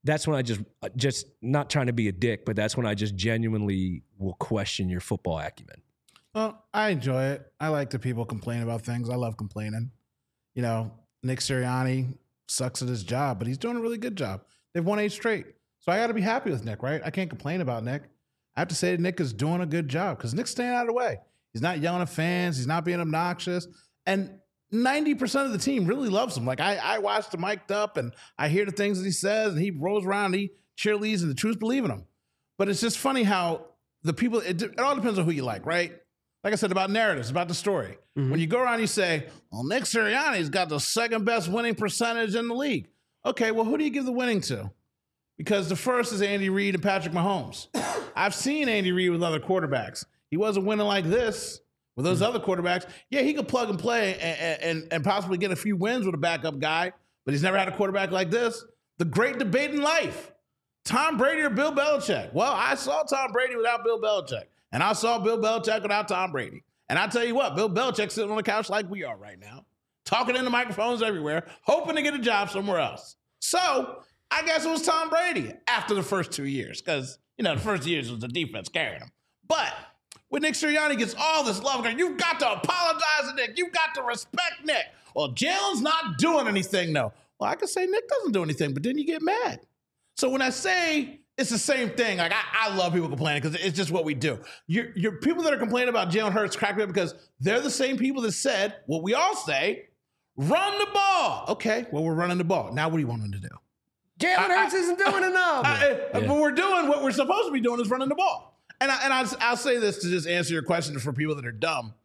that's when I just, just not trying to be a dick, but that's when I just genuinely will question your football acumen. Well, I enjoy it. I like the people complain about things. I love complaining. You know, Nick Sirianni sucks at his job, but he's doing a really good job. They've won eight straight. So I got to be happy with Nick, right? I can't complain about Nick. I have to say that Nick is doing a good job because Nick's staying out of the way. He's not yelling at fans. He's not being obnoxious. And ninety percent of the team really loves him. Like, I, I watched him mic'd up, and I hear the things that he says, and he rolls around, and he cheerleads, and the troops believe in him. But it's just funny how the people, it, it all depends on who you like, right? Like I said, about narratives, about the story. Mm-hmm. When you go around, you say, well, Nick Sirianni's got the second best winning percentage in the league. Okay, well, who do you give the winning to? Because the first is Andy Reid and Patrick Mahomes. I've seen Andy Reid with other quarterbacks. He wasn't winning like this with those mm-hmm. other quarterbacks. Yeah, he could plug and play and, and, and possibly get a few wins with a backup guy, but he's never had a quarterback like this. The great debate in life, Tom Brady or Bill Belichick? Well, I saw Tom Brady without Bill Belichick. And I saw Bill Belichick without Tom Brady. And I tell you what, Bill Belichick sitting on the couch like we are right now, talking into microphones everywhere, hoping to get a job somewhere else. So I guess it was Tom Brady after the first two years because, you know, the first years was the defense carrying him. But when Nick Sirianni gets all this love, you've got to apologize to Nick. You've got to respect Nick. Well, Jalen's not doing anything, though. Well, I can say Nick doesn't do anything, but then you get mad. So when I say it's the same thing, like I, I love people complaining because it's just what we do. You're, you're people that are complaining about Jalen Hurts crack me up because they're the same people that said what we all say, run the ball. Okay, well, we're running the ball. Now what do you want them to do? Jalen Hurts isn't doing enough. I, I, yeah. But we're doing what we're supposed to be doing is running the ball. And, I, and I'll, I'll say this to just answer your question for people that are dumb.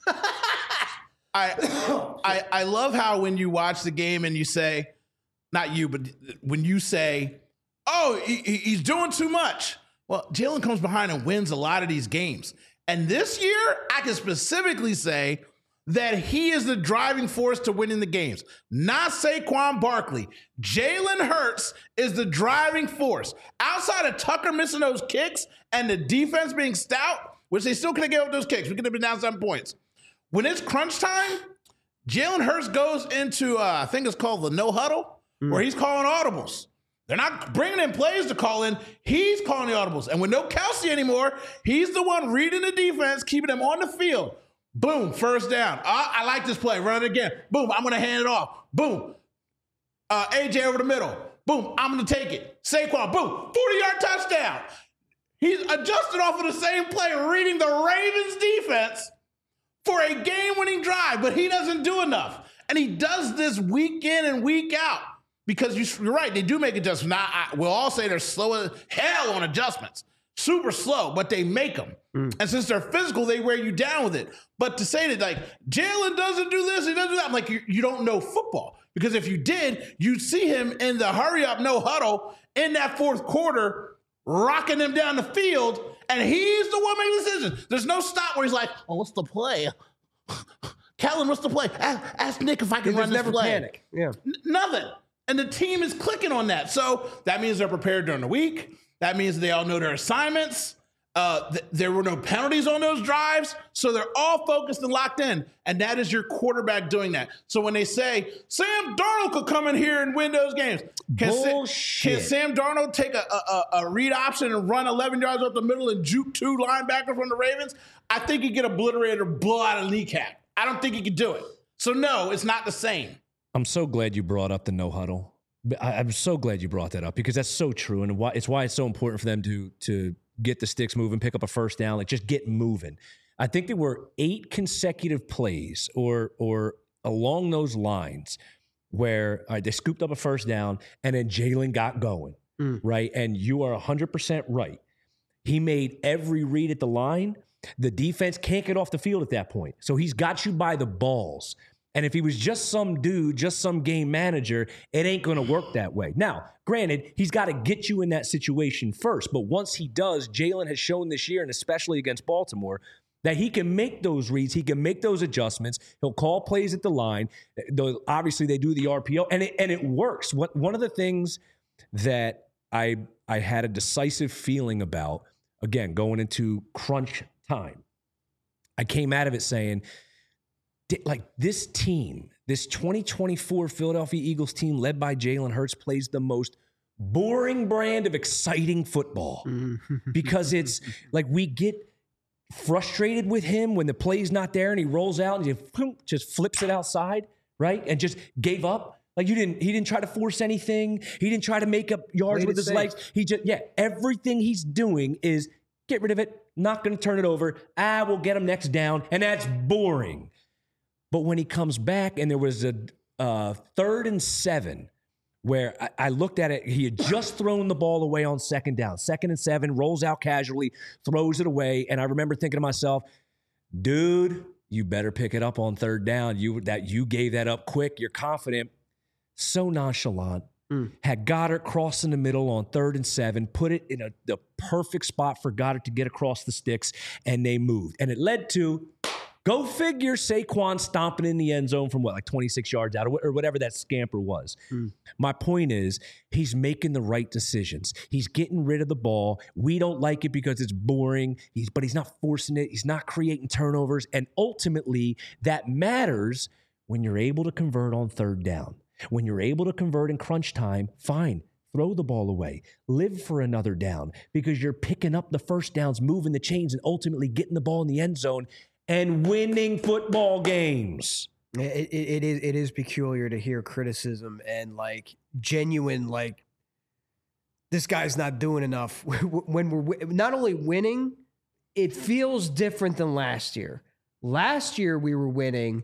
I, I I love how when you watch the game and you say, not you, but when you say, oh, he, he's doing too much. Well, Jalen comes behind and wins a lot of these games. And this year, I can specifically say that he is the driving force to winning the games. Not Saquon Barkley. Jalen Hurts is the driving force. Outside of Tucker missing those kicks and the defense being stout, which they still couldn't get up those kicks. We could have been down seven points. When it's crunch time, Jalen Hurts goes into, uh, I think it's called the no huddle, mm. where he's calling audibles. They're not bringing in plays to call in. He's calling the audibles. And with no Kelsey anymore, he's the one reading the defense, keeping them on the field. Boom, first down. Uh, I like this play. Run it again. Boom, I'm going to hand it off. Boom. Uh, A J over the middle. Boom, I'm going to take it. Saquon, boom, forty-yard touchdown. He's adjusted off of the same play, reading the Ravens defense for a game-winning drive, but he doesn't do enough. And he does this week in and week out. Because you're right, they do make adjustments. Now, I, we'll all say they're slow as hell on adjustments. Super slow, but they make them. Mm. And since they're physical, they wear you down with it. But to say that, like, Jalen doesn't do this, he doesn't do that, I'm like, you, you don't know football. Because if you did, you'd see him in the hurry-up, no huddle in that fourth quarter, rocking them down the field, and he's the one making decisions. There's no stop where he's like, oh, what's the play? Kellen, what's the play? Ask, ask Nick if I can run this never play. Panic. Yeah. N- nothing. And the team is clicking on that. So that means they're prepared during the week. That means they all know their assignments. Uh, th- there were no penalties on those drives. So they're all focused and locked in. And that is your quarterback doing that. So when they say, Sam Darnold could come in here and win those games. Can, Bullshit. Sa- can Sam Darnold take a, a, a read option and run eleven yards up the middle and juke two linebackers from the Ravens? I think he'd get obliterated or blow out a kneecap. I don't think he could do it. So no, it's not the same. I'm so glad you brought up the no huddle. I, I'm so glad you brought that up because that's so true, and why it's why it's so important for them to to get the sticks moving, pick up a first down, like just get moving. I think there were eight consecutive plays, or or along those lines, where all right, they scooped up a first down, and then Jalen got going, mm. right? And you are one hundred percent right. He made every read at the line. The defense can't get off the field at that point, so he's got you by the balls. And if he was just some dude, just some game manager, it ain't going to work that way. Now, granted, he's got to get you in that situation first. But once he does, Jalen has shown this year, and especially against Baltimore, that he can make those reads. He can make those adjustments. He'll call plays at the line. Obviously, they do the R P O, and it, and it works. What, one of the things that I I had a decisive feeling about, again, going into crunch time, I came out of it saying, like, this team, this twenty twenty-four Philadelphia Eagles team led by Jalen Hurts plays the most boring brand of exciting football because it's like we get frustrated with him when the play's not there and he rolls out and he just flips it outside, right? And just gave up. Like you didn't, he didn't try to force anything. He didn't try to make up yards Played with it his safe. legs. He just, yeah, everything he's doing is get rid of it, not going to turn it over. Ah, we'll get him next down. And that's boring. But when he comes back and there was a uh, third and seven where I, I looked at it, he had just thrown the ball away on second down. Second and seven, rolls out casually, throws it away. And I remember thinking to myself, dude, you better pick it up on third down. You that you gave that up quick. You're confident. So nonchalant. Mm. Had Goddard cross in the middle on third and seven, put it in a, the perfect spot for Goddard to get across the sticks, and they moved. And it led to, go figure, Saquon stomping in the end zone from what, like twenty-six yards out, or whatever that scamper was. Mm. My point is, he's making the right decisions. He's getting rid of the ball. We don't like it because it's boring, He's but he's not forcing it. He's not creating turnovers. And ultimately, that matters when you're able to convert on third down. When you're able to convert in crunch time, fine. Throw the ball away. Live for another down because you're picking up the first downs, moving the chains, and ultimately getting the ball in the end zone and winning football games. It, it, it is it is peculiar to hear criticism and like genuine like this guy's not doing enough when we're not only winning. It feels different than last year. Last year we were winning,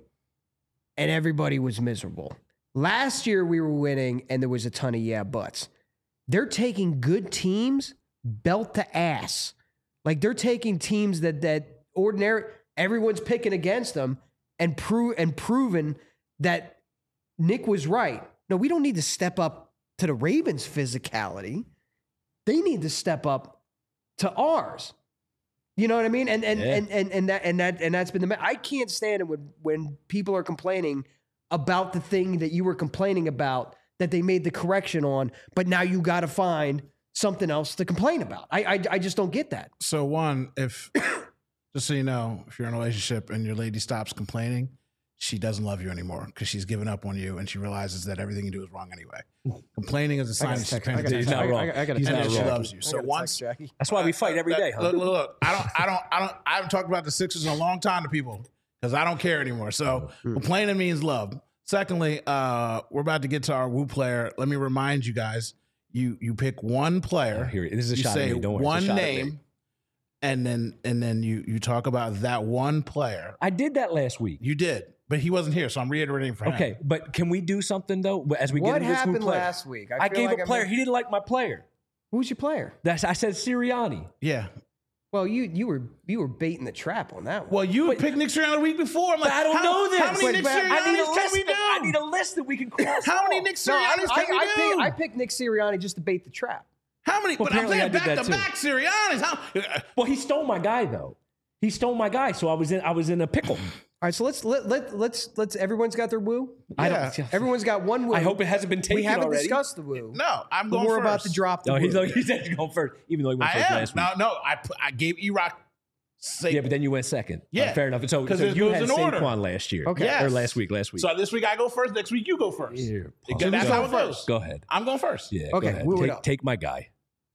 and everybody was miserable. Last year we were winning, and there was a ton of yeah buts. They're taking good teams belt to ass, like they're taking teams that that ordinary. Everyone's picking against them and prove and proven that Nick was right. No, we don't need to step up to the Ravens' physicality. They need to step up to ours. You know what I mean? And and yeah. and, and and that and that and that's been the I can't stand it when when people are complaining about the thing that you were complaining about that they made the correction on, but now you got to find something else to complain about. I, I I just don't get that. So one, if just so you know, if you're in a relationship and your lady stops complaining, she doesn't love you anymore because she's given up on you and she realizes that everything you do is wrong anyway. Complaining is a sign that she's paying attention. He's not wrong. I got He's to not text she Jackie. loves you. So once that's why we fight every day. Huh? Look, look, look. I don't, I don't, I don't. I haven't talked about the Sixers in a long time to people because I don't care anymore. So complaining means love. Secondly, uh, we're about to get to our Woo player. Let me remind you guys: you you pick one player. Oh, here, this is a you shot say at me. Don't worry. one It's a shot at name, me. and then and then you you talk about that one player. I did that last week. You did, but he wasn't here, so I'm reiterating for him. Okay, but can we do something though as we What get into this Woo happened player? last week? I, feel gave like a I player. missed- He didn't like my player. Who's your player? That's I said Sirianni. Yeah. Well, you you were you were baiting the trap on that one. Well, you Wait. picked Nick Sirianni the week before. I'm like, But I don't how, know this. How many Wait, Nick but I need a Siriannis can list. we do? That, I need a list that we can cross. How many off. Nick No, I, Siriannis I, can we I, do? picked, I picked Nick Sirianni just to bait the trap. How many? Well, but I'm apparently I saying did back that to too. back Siriannis. How? Well, he stole my guy though. He stole my guy, so I was in. I was in a pickle. All right, so let's let, let let's let's everyone's got their woo. I Yeah. don't. Everyone's got one woo. I hope it hasn't been taken we haven't already. discussed the woo. No, I'm but going we're first. about to drop the No, woo. he's like, he said to go first, even though he went I first am. last week. No, no. I put, I gave E-Rock. Sa- Yeah, but then you went second. Yeah. Uh, fair enough. So, 'Cause so it you goes had in order. Saquon last year. Okay. Yes. Or last week. Last week. So this week I go first. Next week you go first. Here, Because Paul. that's go, how it goes. go ahead. I'm going first. Yeah. Okay, Go ahead. woo it Take, up. take my guy.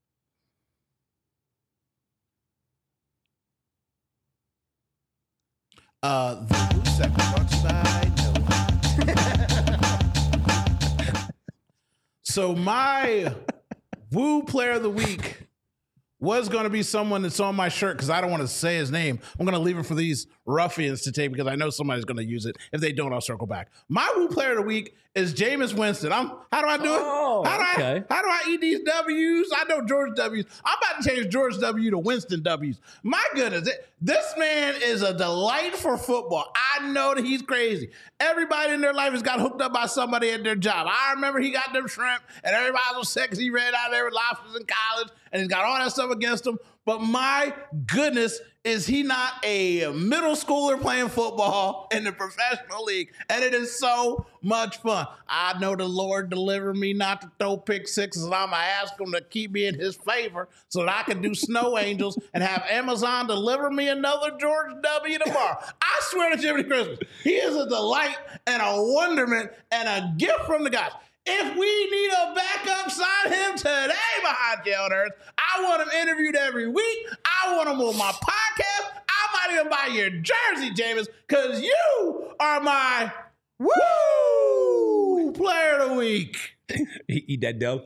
Uh, the Woo segment brought to you by Noah. So my Woo player of the week was going to be someone that's on my shirt because I don't want to say his name. I'm going to leave it for these ruffians to take because I know somebody's going to use it. If they don't, I'll circle back. My Woo player of the week is Jameis Winston. I'm. How do I do it? Oh, how do okay. I? How do I eat these W's? I know George W's. I'm about to change George W to Winston W's. My goodness, it, this man is a delight for football. I know that he's crazy. Everybody in their life has got hooked up by somebody at their job. I remember he got them shrimp, and everybody was sick because he ran out there with lobsters in college, and he's got all that stuff against him. But my goodness, is he not a middle schooler playing football in the professional league? And it is so much fun. I know the Lord delivered me not to throw pick sixes, and I'm going to ask him to keep me in his favor so that I can do snow angels and have Amazon deliver me another George W. tomorrow. I swear to Jiminy Christmas, he is a delight and a wonderment and a gift from the gods. If we need a backup, sign him today behind jail nerds. I want him interviewed every week. I want him on my podcast. I might even buy your jersey, Jameis, because you are my woo player of the week. Eat that dough.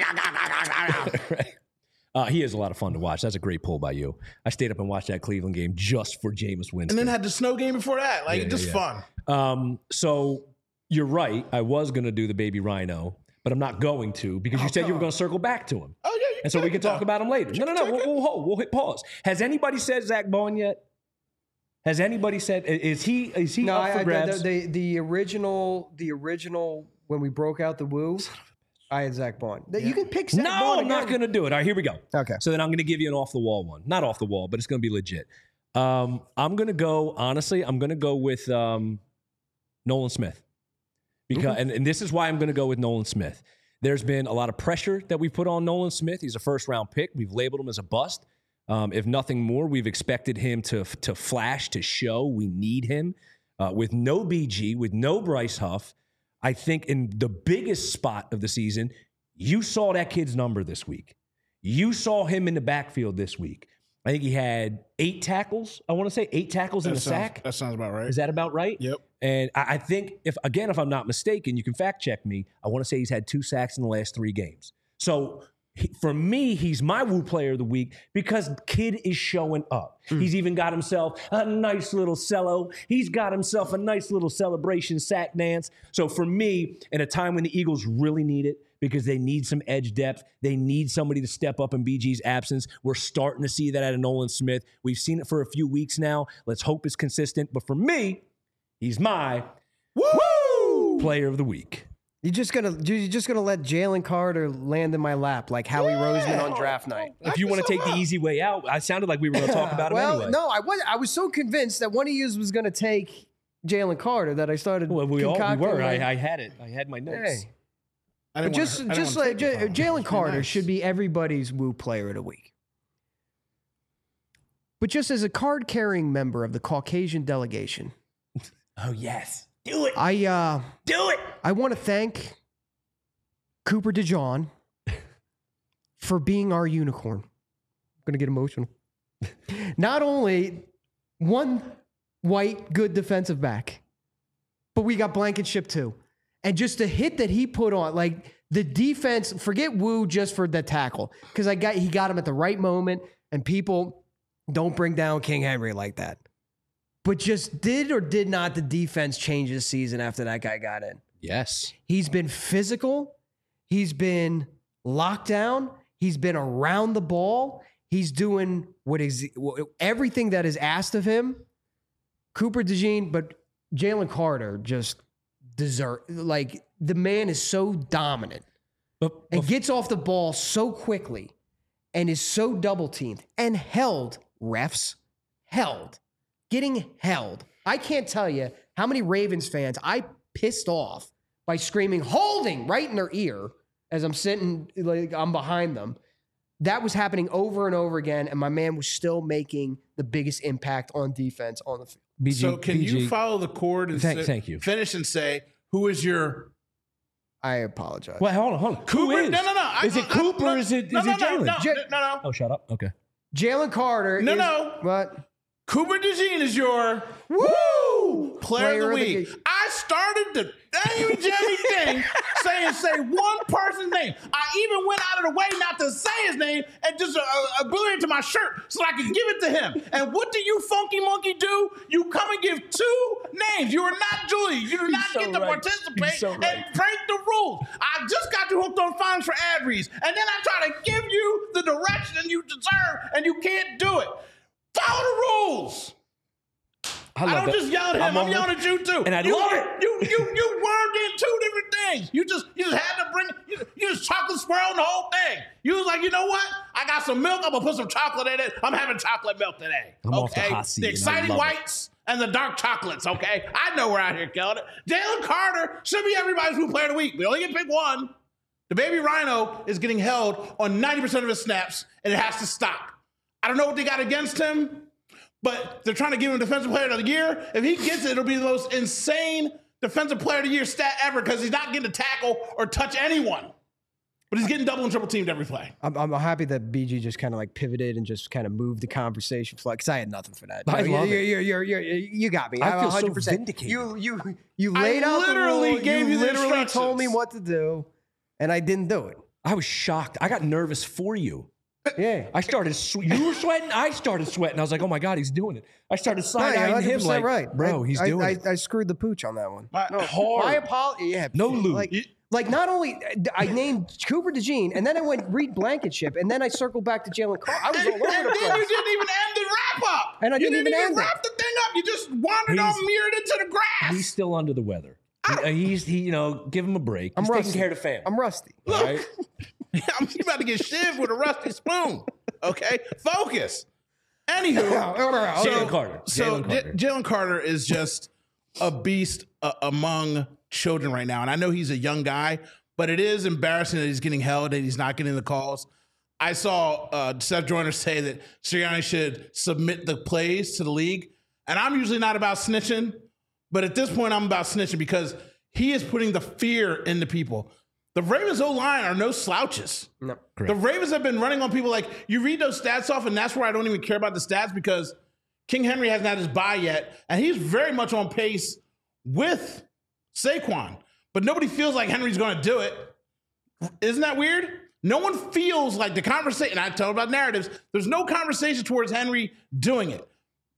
Uh, he is a lot of fun to watch. That's a great pull by you. I stayed up and watched that Cleveland game just for Jameis Winston. And then had the snow game before that. Like, Yeah, just yeah, fun. Um, so you're right. I was going to do the baby rhino, but I'm not going to because you Oh, said you were come going to circle back to him. Oh, yeah. You And so we check can it talk out. about him later. No, no, no. check We'll, it. we'll hold. We'll hit pause. Has anybody said Zach Bond yet? Has anybody said, is he, is he No, up I, for I, grabs? the, the the original the original when we broke out the woo, I had Zach Bond. You can pick Zach no, Bond I'm not again. going to do it. All right, here we go. Okay. So then I'm going to give you an off the wall one. Not off the wall, but it's going to be legit. Um, I'm going to go, honestly, I'm going to go with um, Nolan Smith. Because, and, and this is why I'm going to go with Nolan Smith. There's been a lot of pressure that we put on Nolan Smith. He's a first round pick. We've labeled him as a bust. Um, if nothing more, we've expected him to, to flash, to show. We need him. Uh, with no B G, with no Bryce Huff, I think in the biggest spot of the season, you saw that kid's number this week. You saw him in the backfield this week. I think he had eight tackles. I want to say eight tackles That and a sounds, sack. That sounds about right. Is that about right? Yep. And I, I think, if again, if I'm not mistaken, you can fact check me. I want to say he's had two sacks in the last three games. So he, for me, he's my Woo Player of the Week because kid is showing up. Mm. He's even got himself a nice little cello. He's got himself a nice little celebration sack dance. So for me, in a time when the Eagles really need it, because they need some edge depth. They need somebody to step up in B G's absence. We're starting to see that out of Nolan Smith. We've seen it for a few weeks now. Let's hope it's consistent. But for me, he's my Woo! Player of the Week. You're just gonna you're just gonna let Jalen Carter land in my lap like Howie Yeah. Roseman on draft night. If you want to take the easy way out, I sounded like we were going to talk about him well, anyway. no, I was I was so convinced that one of you was gonna take Jalen Carter that I started. Well, we all we concocting were. like, I, I had it. I had my notes. hey. I But didn't just wanna, I didn't just wanna like take it J- from him. Jalen Just be Carter nice. should be everybody's Woo Player of the Week. But just as a card carrying member of the Caucasian delegation, Oh, yes. Do it. I uh Do it. I want to thank Cooper DeJean for being our unicorn. I'm gonna get emotional. Not only one white good defensive back, but we got Blankenship too. And just the hit that he put on, like the defense, forget Woo just for the tackle. Because I got he got him at the right moment, and people don't bring down King Henry like that. But just did or did not the defense change this season after that guy got in? Yes. He's been physical. He's been locked down. He's been around the ball. He's doing what is everything that is asked of him. Cooper DeJean, but Jalen Carter just deserve like the man is so dominant But, and but gets off the ball so quickly and is so double teamed and held refs held getting held. I can't tell you how many Ravens fans I pissed off by screaming holding right in their ear as I'm sitting like I'm behind them. That was happening over and over again, and my man was still making the biggest impact on defense on the field. B G, So can B G, you follow the cord and Thank- say, thank you. finish and say, who is your I apologize. Well, hold on, hold on. Who Cooper? is? No, no, no. I- Is it I- Cooper no, or is it, no, is no, it no, Jalen? no, J- no, no. Oh, shut up. Okay. Jalen Carter No, is, no. What? Cooper DeJean is your woo player, of the week. ga- I started the Daniel Jerry thing saying say one person's name. I even went out of the way not to say his name and just uh, uh, blew it into my shirt so I could give it to him. And what do you funky monkey do? You come and give two names. You are not Julius. You do not so get to right. participate He's so and right. break the rules. I just got you hooked on fines for ad reads, and then I try to give you the direction you deserve, and you can't do it. Follow the rules. I, love don't that. just yell at him. I'm, on- yelling at you too. And I you, love it. You you you wormed in two different things. You just you just had to bring you, you just chocolate swirl the whole thing. You was like, you know what? I got some milk. I'm gonna put some chocolate in it. I'm having chocolate milk today. I'm off the okay, hot seat, the and I exciting love it. whites and the dark chocolates. Okay, I know we're out here killing it. Jalen Carter should be everybody's Who Player of the Week. We only get to pick one. The baby rhino is getting held on ninety percent of his snaps, and it has to stop. I don't know what they got against him, but they're trying to give him Defensive Player of the Year. If he gets it, it'll be the most insane defensive player of the year stat ever because he's not getting to tackle or touch anyone. But he's getting double and triple teamed every play. I'm, I'm happy that B G just kind of like pivoted and just kind of moved the conversation flight because I had nothing for that. I you, love you, it. You, you, you, you, you got me. I I'm feel so one hundred percent. vindicated. You, you, you laid out literally the rule. gave you you the literally told me instructions. what to do, and I didn't do it. I was shocked. I got nervous for you. Yeah. I started, sw- you were sweating. I started sweating. I was like, oh my God, he's doing it. I started No, side you're eyeing him like, right. bro, I, he's I, doing I, it. I screwed the pooch on that one. My, Hard. My apology. Yeah. No lube. Like, like not only I named Cooper DeJean, and then I went Reed Blankenship, and then I circled back to Jalen Carter. I was all and, over and the then you place. didn't even end the wrap up. And I you didn't even end it. wrap the thing up. You just wandered He's- on mirrored into the grass. He's still under the weather. He- uh, he's, he, you know, give him a break. I'm He's rusty. taking care of the family. I'm rusty. Look, right? I'm about to get shivved with a rusty spoon. Okay, focus. Anywho, Jalen Carter. So Jalen Carter. J- Jalen Carter is just a beast uh, among children right now, and I know he's a young guy, but it is embarrassing that he's getting held and he's not getting the calls. I saw uh, Seth Joyner say that Sirianni should submit the plays to the league, and I'm usually not about snitching, but at this point I'm about snitching because he is putting the fear into people. The Ravens O-line are no slouches. No. The Ravens have been running on people like, you read those stats off, and that's where I don't even care about the stats because King Henry hasn't had his bye yet, and he's very much on pace with Saquon. But nobody feels like Henry's going to do it. Isn't that weird? No one feels like the conversation, and I tell about narratives, there's no conversation towards Henry doing it.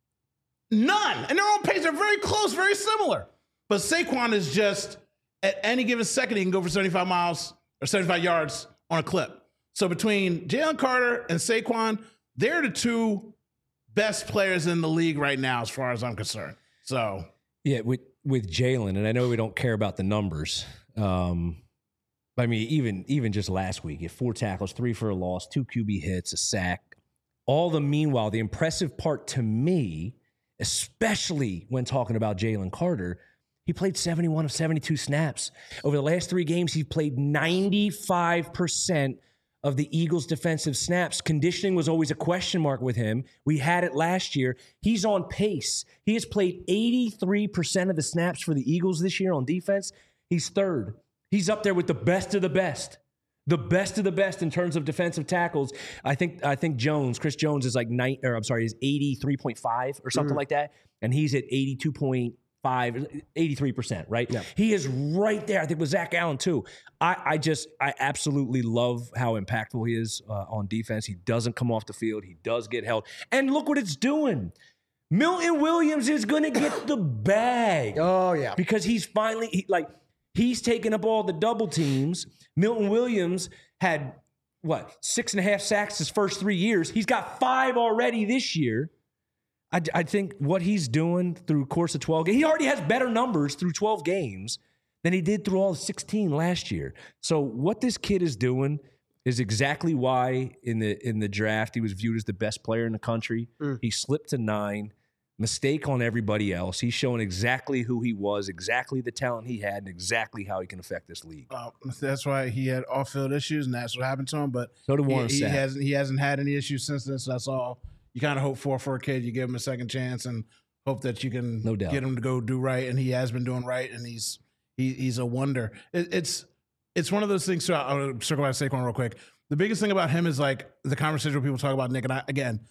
None. And they're on pace. They're very close, very similar. But Saquon is just, at any given second, he can go for seventy-five miles or seventy-five yards on a clip. So between Jalen Carter and Saquon, they're the two best players in the league right now, as far as I'm concerned. So Yeah, with with Jalen, and I know we don't care about the numbers. Um, I mean, even even just last week, he had four tackles, three for a loss, two Q B hits, a sack. All the meanwhile, the impressive part to me, especially when talking about Jalen Carter, he played seventy-one of seventy-two snaps. Over the last three games, he played ninety-five percent of the Eagles' defensive snaps. Conditioning was always a question mark with him. We had it last year. He's on pace. He has played eighty-three percent of the snaps for the Eagles this year on defense. He's third. He's up there with the best of the best. The best of the best in terms of defensive tackles. I think I think Jones, Chris Jones is like nine, or I'm sorry, is eighty-three point five or something mm. like that. And he's at eighty-two point five, eighty-three percent, right? Yeah. He is right there. I think with Zach Allen too. I, I just, I absolutely love how impactful he is uh, on defense. He doesn't come off the field. He does get held. And look what it's doing. Milton Williams is going to get the bag. Oh, yeah. Because he's finally, he, like, he's taking up all the double teams. Milton Williams had, what, six and a half sacks his first three years. He's got five already this year. I, I think what he's doing through course of twelve games, he already has better numbers through twelve games than he did through all sixteen last year. So what this kid is doing is exactly why in the in the draft he was viewed as the best player in the country. Mm. He slipped to nine. Mistake on everybody else. He's showing exactly who he was, exactly the talent he had, and exactly how he can affect this league. Uh, that's why he had off-field issues, and that's what happened to him. But so did Warren he, he Sapp. hasn't he hasn't had any issues since then. So that's all you kind of hope for for a kid. You give him a second chance and hope that you can no doubt. get him to go do right. And he has been doing right, and he's he, he's a wonder. It, it's it's one of those things. So I'll circle back to Saquon real quick. The biggest thing about him is like the conversation where people talk about Nick, and I again,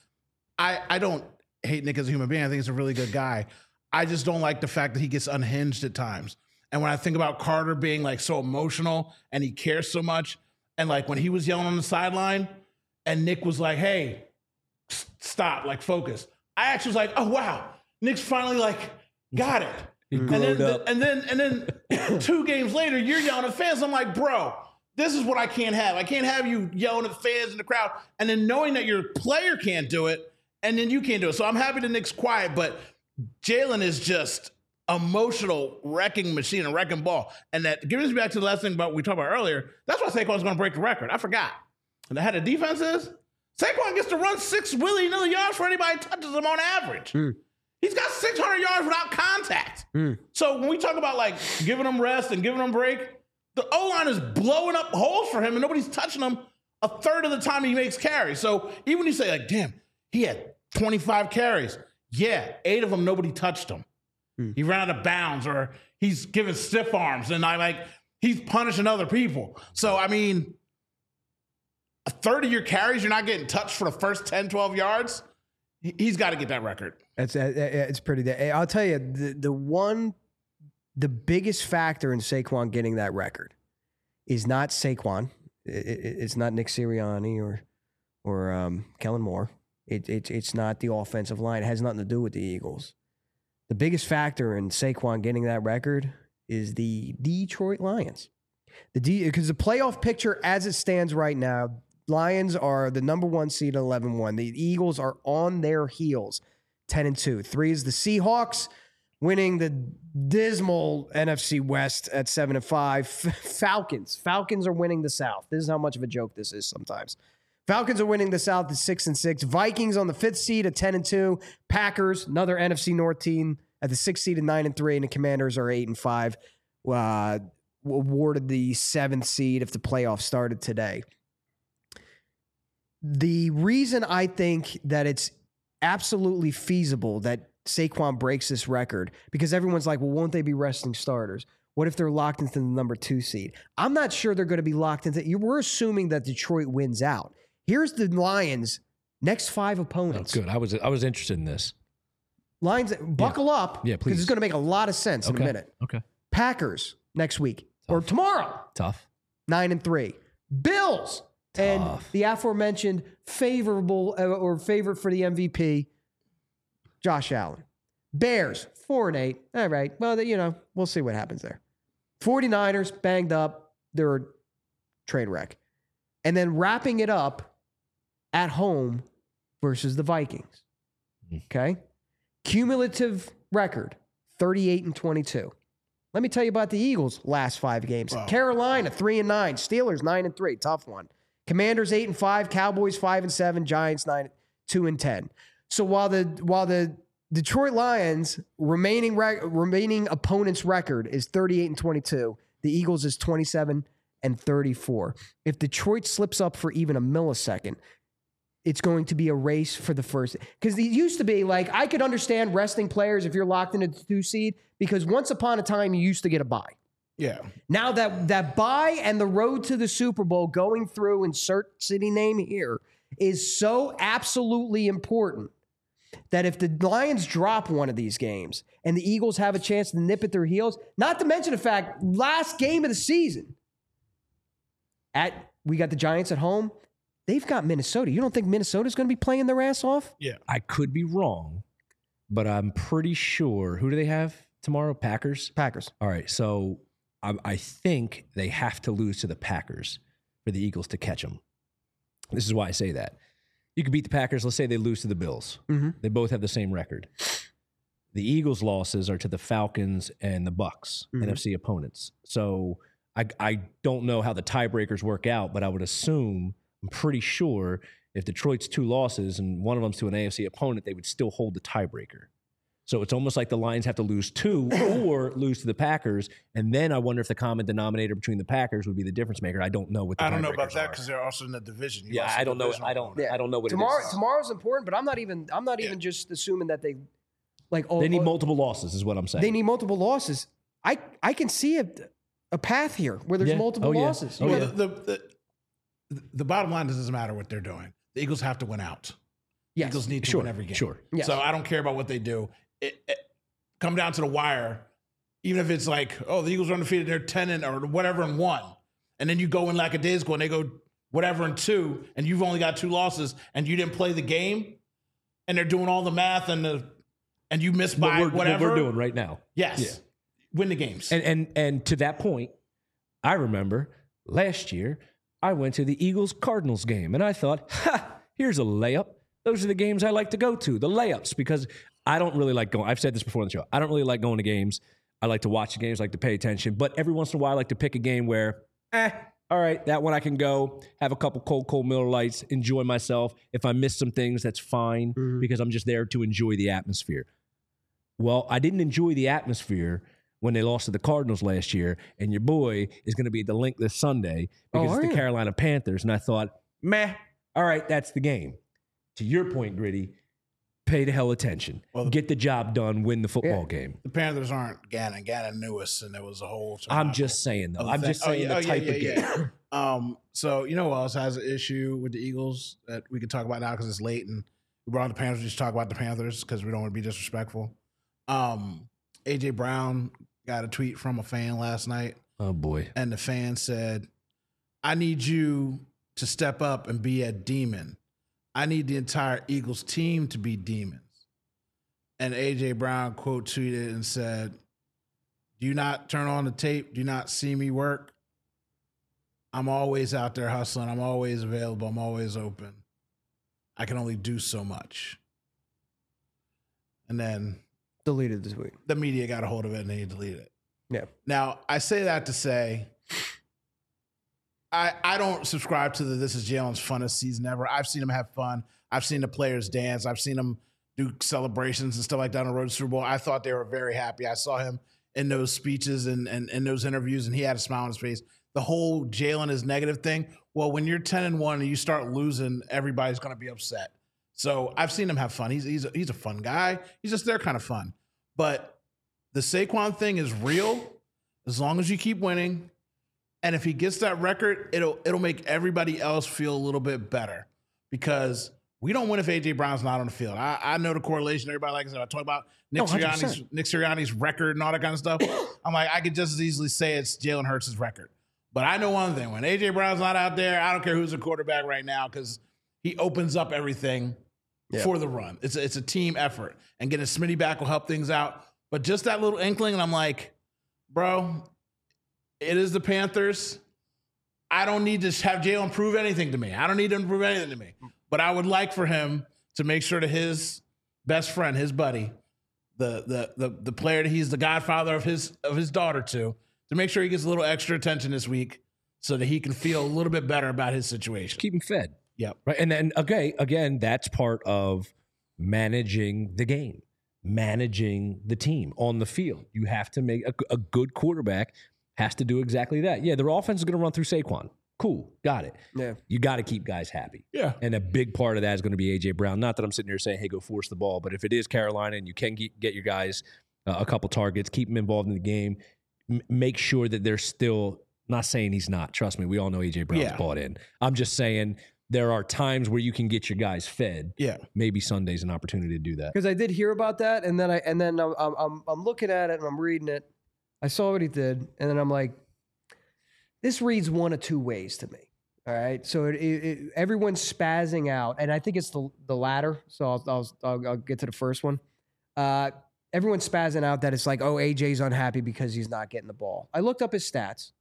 I I don't hate Nick as a human being. I think he's a really good guy. I just don't like the fact that he gets unhinged at times. And when I think about Carter being like so emotional and he cares so much, and like when he was yelling on the sideline and Nick was like, hey, stop, like focus. I actually was like, oh wow, Nick's finally like got it. And then, up. and then and then two games later, you're yelling at fans. I'm like, bro, this is what I can't have. I can't have you yelling at fans in the crowd and then knowing that your player can't do it. And then you can't do it. So I'm happy that Nick's quiet, but Jalen is just emotional wrecking machine, a wrecking ball. And that gives me back to the last thing about we talked about earlier. That's why Saquon's going to break the record. I forgot. And how the defense is? Saquon gets to run six willy-nilly yards for anybody who touches him on average. Mm. He's got six hundred yards without contact. Mm. So when we talk about like giving him rest and giving him break, the O-line is blowing up holes for him and nobody's touching him a third of the time he makes carries. So even when you say like, damn, he had twenty-five carries. Yeah, eight of them, nobody touched him. Hmm. He ran out of bounds, or he's giving stiff arms, and I like he's punishing other people. So I mean, a third of your carries, you're not getting touched for the first ten, twelve yards. He's got to get that record. It's it's pretty. I'll tell you the the one, the biggest factor in Saquon getting that record is not Saquon. It, it, it's not Nick Sirianni or or um, Kellen Moore. It, it it's not the offensive line. It has nothing to do with the Eagles. The biggest factor in Saquon getting that record is the Detroit Lions. The D because the playoff picture as it stands right now, Lions are the number one seed at eleven one. The Eagles are on their heels, ten and two. Three is the Seahawks, winning the dismal N F C West at seven and five. Falcons. Falcons are winning the South. This is how much of a joke this is sometimes. Falcons are winning the South at six and six. Vikings on the fifth seed at ten and two. Packers, another N F C North team, at the sixth seed at nine and three. And the Commanders are eight and five. Uh, awarded the seventh seed if the playoffs started today. The reason I think that it's absolutely feasible that Saquon breaks this record, because everyone's like, well, won't they be resting starters? What if they're locked into the number two seed? I'm not sure they're going to be locked into. We're assuming that Detroit wins out. Here's the Lions' next five opponents. Oh, good. I was I was interested in this. Lions, buckle yeah. up. Yeah, please. Because it's going to make a lot of sense okay. in a minute. Okay. Packers next week Tough. or tomorrow. Tough. Nine and three. Bills. Tough. And the aforementioned favorable uh, or favorite for the M V P, Josh Allen. Bears, four and eight. All right. Well, you know, we'll see what happens there. 49ers, banged up. They're a train wreck. And then wrapping it up at home versus the Vikings. Okay? Cumulative record, thirty-eight and twenty-two. Let me tell you about the Eagles' last five games. Wow. Carolina, three and nine. Steelers, nine and three. Tough one. Commanders, eight and five. Cowboys, five and seven. Giants, nine, two and ten. So while the while the Detroit Lions remaining rec- remaining opponent's record is thirty-eight and twenty-two, the Eagles is twenty-seven and thirty-four. If Detroit slips up for even a millisecond, it's going to be a race for the first. Because it used to be like, I could understand resting players if you're locked in a two seed, because once upon a time you used to get a bye. Yeah. Now that that bye and the road to the Super Bowl going through, insert city name here, is so absolutely important that if the Lions drop one of these games and the Eagles have a chance to nip at their heels, not to mention the fact, last game of the season, at we got the Giants at home. They've got Minnesota. You don't think Minnesota's going to be playing their ass off? Yeah. I could be wrong, but I'm pretty sure. Who do they have tomorrow? Packers? Packers. All right. So I, I think they have to lose to the Packers for the Eagles to catch them. This is why I say that. You could beat the Packers. Let's say they lose to the Bills. Mm-hmm. They both have the same record. The Eagles' losses are to the Falcons and the Bucks, mm-hmm. N F C opponents. So I, I don't know how the tiebreakers work out, but I would assume, I'm pretty sure, if Detroit's two losses and one of them's to an A F C opponent, they would still hold the tiebreaker. So it's almost like the Lions have to lose two or lose to the Packers, and then I wonder if the common denominator between the Packers would be the difference maker. I don't know what the I don't know about tiebreakers that are. because they're also in the division. You Yeah, I don't know. I don't. Yeah. I don't know what Tomorrow, it is. Tomorrow's important, but I'm not even. I'm not even Yeah. just assuming that they, like, oh, They need oh, multiple losses, is what I'm saying. They need multiple losses. I I can see a a path here where there's Yeah. multiple Oh, yeah. losses. Oh, well, yeah. the, the, the, the bottom line is it doesn't matter what they're doing. The Eagles have to win out. Yes. Eagles need to Sure. win every game. Sure. Yes. So I don't care about what they do. It, it, come down to the wire, even if it's like, oh, the Eagles are undefeated, they're ten and or whatever and one, and then you go in lackadaisical and they go whatever and two, and you've only got two losses, and you didn't play the game, and they're doing all the math and the and you missed by what we're, whatever what we're doing right now. Yes, Yeah. win the games. And and and to that point, I remember last year I went to the Eagles Cardinals game, and I thought, ha, here's a layup. Those are the games I like to go to, the layups, because I don't really like going. I've said this before on the show. I don't really like going to games. I like to watch the games, like to pay attention. But every once in a while, I like to pick a game where, eh, all right, that one I can go, have a couple cold, cold Miller Lights, enjoy myself. If I miss some things, that's fine, mm-hmm. because I'm just there to enjoy the atmosphere. Well, I didn't enjoy the atmosphere when they lost to the Cardinals last year, and your boy is going to be at the Link this Sunday because oh, it's the you? Carolina Panthers. And I thought, meh, all right, that's the game. To your point, Gritty, pay the hell attention. Well, the- Get the job done. Win the football Yeah. game. The Panthers aren't Gannon. Gannon knew us, and there was a whole. I'm just saying though. I'm thing. just saying oh, yeah, the oh, type yeah, of yeah, game. yeah. Um. So you know who else has an issue with the Eagles that we can talk about now because it's late and we brought on the Panthers. Just talk about the Panthers because we don't want to be disrespectful. Um. A J Brown got a tweet from a fan last night, Oh boy. and the fan said, "I need you to step up and be a demon. I need the entire Eagles team to be demons." And A J Brown quote tweeted and said, "Do you not turn on the tape? Do you not see me work? I'm always out there hustling. I'm always available. I'm always open. I can only do so much." And then Deleted the tweet. the media got a hold of it and they deleted it. Yeah. Now, I say that to say, I I don't subscribe to the this is Jalen's funnest season ever. I've seen him have fun. I've seen the players dance. I've seen him do celebrations and stuff like that on the road to Super Bowl. I thought they were very happy. I saw him in those speeches and and in those interviews, and he had a smile on his face. The whole Jalen is negative thing. Well, when you're ten and one and you start losing, everybody's going to be upset. So I've seen him have fun. He's he's a, he's a fun guy. He's just their kind of fun. But the Saquon thing is real as long as you keep winning. And if he gets that record, it'll it'll make everybody else feel a little bit better because we don't win if A J Brown's not on the field. I, I know the correlation. Everybody likes it. I talk about Nick No, one hundred Sirianni's percent. Nick Sirianni's record and all that kind of stuff. I'm like, I could just as easily say it's Jalen Hurts' record. But I know one thing: when A J Brown's not out there, I don't care who's the quarterback right now because he opens up everything Yeah. for the run. It's a, it's a team effort, and getting Smitty back will help things out. But just that little inkling, and I'm like, bro, it is the Panthers. I don't need to have Jalen prove anything to me. I don't need him to prove anything to me. But I would like for him to make sure that his best friend, his buddy, the the the the player that he's the godfather of his of his daughter to, to make sure he gets a little extra attention this week so that he can feel a little bit better about his situation. Keep him fed. Yep. Right. And then, okay, again, that's part of managing the game, managing the team on the field. You have to make a, a good quarterback has to do exactly that. Yeah, their offense is going to run through Saquon. Cool. Got it. Yeah. You got to keep guys happy. Yeah. And a big part of that is going to be A J Brown. Not that I'm sitting here saying, hey, go force the ball. But if it is Carolina and you can get, get your guys uh, a couple targets, keep them involved in the game, m- make sure that they're still not saying he's not. Trust me, we all know A J Brown's Yeah. bought in. I'm just saying there are times where you can get your guys fed. Yeah. Maybe Sunday's an opportunity to do that. Because I did hear about that, and then I and then I'm, I'm I'm looking at it and I'm reading it. I saw what he did, and then I'm like, this reads one of two ways to me. All right, so it, it, it, everyone's spazzing out, and I think it's the the latter. So I'll I'll, I'll, I'll get to the first one. Uh, everyone's spazzing out that it's like, oh, A J's unhappy because he's not getting the ball. I looked up his stats,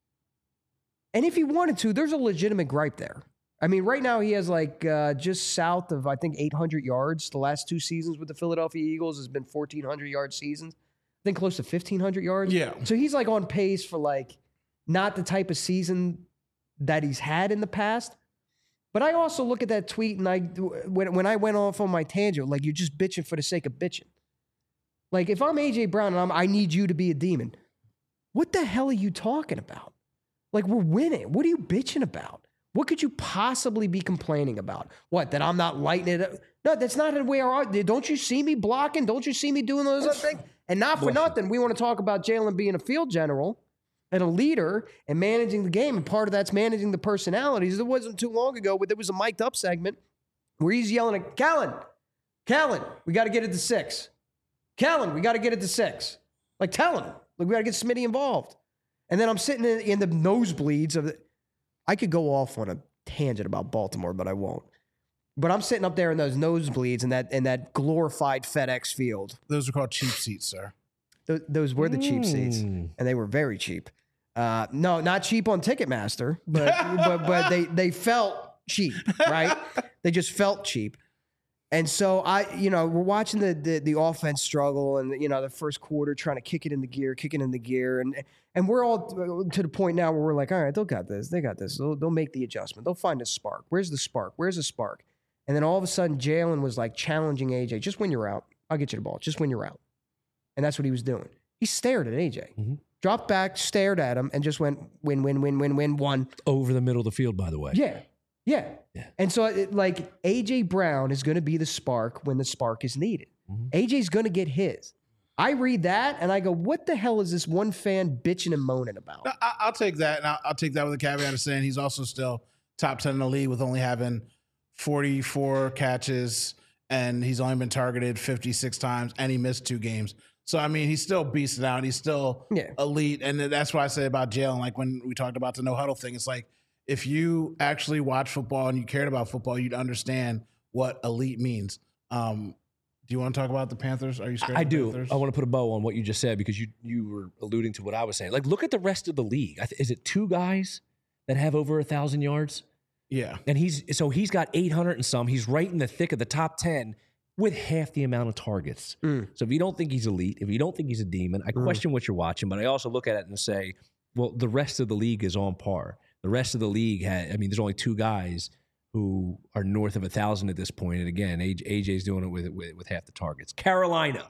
and if he wanted to, there's a legitimate gripe there. I mean, right now he has like uh, just south of, I think, eight hundred yards. The last two seasons with the Philadelphia Eagles has been fourteen hundred yard seasons. I think close to fifteen hundred yards. Yeah. So he's like on pace for like not the type of season that he's had in the past. But I also look at that tweet and I, when, when I went off on my tangent, like you're just bitching for the sake of bitching. Like if I'm A J Brown and I'm, I need you to be a demon, what the hell are you talking about? Like we're winning. What are you bitching about? What could you possibly be complaining about? What, that I'm not lighting it up? No, that's not the way I are. Don't you see me blocking? Don't you see me doing those other things? And not for nothing, we want to talk about Jalen being a field general and a leader and managing the game. And part of that's managing the personalities. It wasn't too long ago, but there was a mic'd up segment where he's yelling at Callan, Callan, we got to get it to six. Callan, we got to get it to six. Like, tell him. Like, we got to get Smitty involved. And then I'm sitting in, in the nosebleeds of the, I could go off on a tangent about Baltimore, but I won't. But I'm sitting up there in those nosebleeds in that in that glorified FedEx field. Those are called cheap seats, sir. Th- those were the cheap seats, Mm. and they were very cheap. Uh, no, not cheap on Ticketmaster, but but but they they felt cheap, right? They just felt cheap. And so I, you know, we're watching the, the the offense struggle, and you know, the first quarter trying to kick it into gear, kicking into gear, and and we're all to the point now where we're like, all right, they'll got this, they got this, they'll, they'll make the adjustment, they'll find a spark. Where's the spark? Where's the spark? And then all of a sudden, Jalen was like challenging A J, just when you're out, I'll get you the ball, just when you're out, and that's what he was doing. He stared at A J, Mm-hmm. dropped back, stared at him, and just went win, win, win, win, win, one. Over the middle of the field, by the way. Yeah. Yeah. Yeah. And so, it, like, A J Brown is going to be the spark when the spark is needed. Mhm. A J's going to get his. I read that and I go, what the hell is this one fan bitching and moaning about? No, I, I'll take that, and I'll, I'll take that with a caveat of saying he's also still top ten in the league with only having forty-four catches, and he's only been targeted fifty-six times, and he missed two games. So, I mean, he's still beasting out. He's still Yeah. elite, and that's why I say about Jalen, like when we talked about the no huddle thing, it's like if you actually watch football and you cared about football, you'd understand what elite means. Um, do you want to talk about the Panthers? Are you scared I of the do. Panthers? I want to put a bow on what you just said because you you were alluding to what I was saying. Like, look at the rest of the league. I th- is it two guys that have over a thousand yards? Yeah. And he's so he's got eight hundred and some. He's right in the thick of the top ten with half the amount of targets. Mm. So if you don't think he's elite, if you don't think he's a demon, I Mm. question what you're watching. But I also look at it and say, well, the rest of the league is on par. The rest of the league had. I mean, there's only two guys who are north of a thousand at this point. And again, A J's doing it with with, with half the targets. Carolina.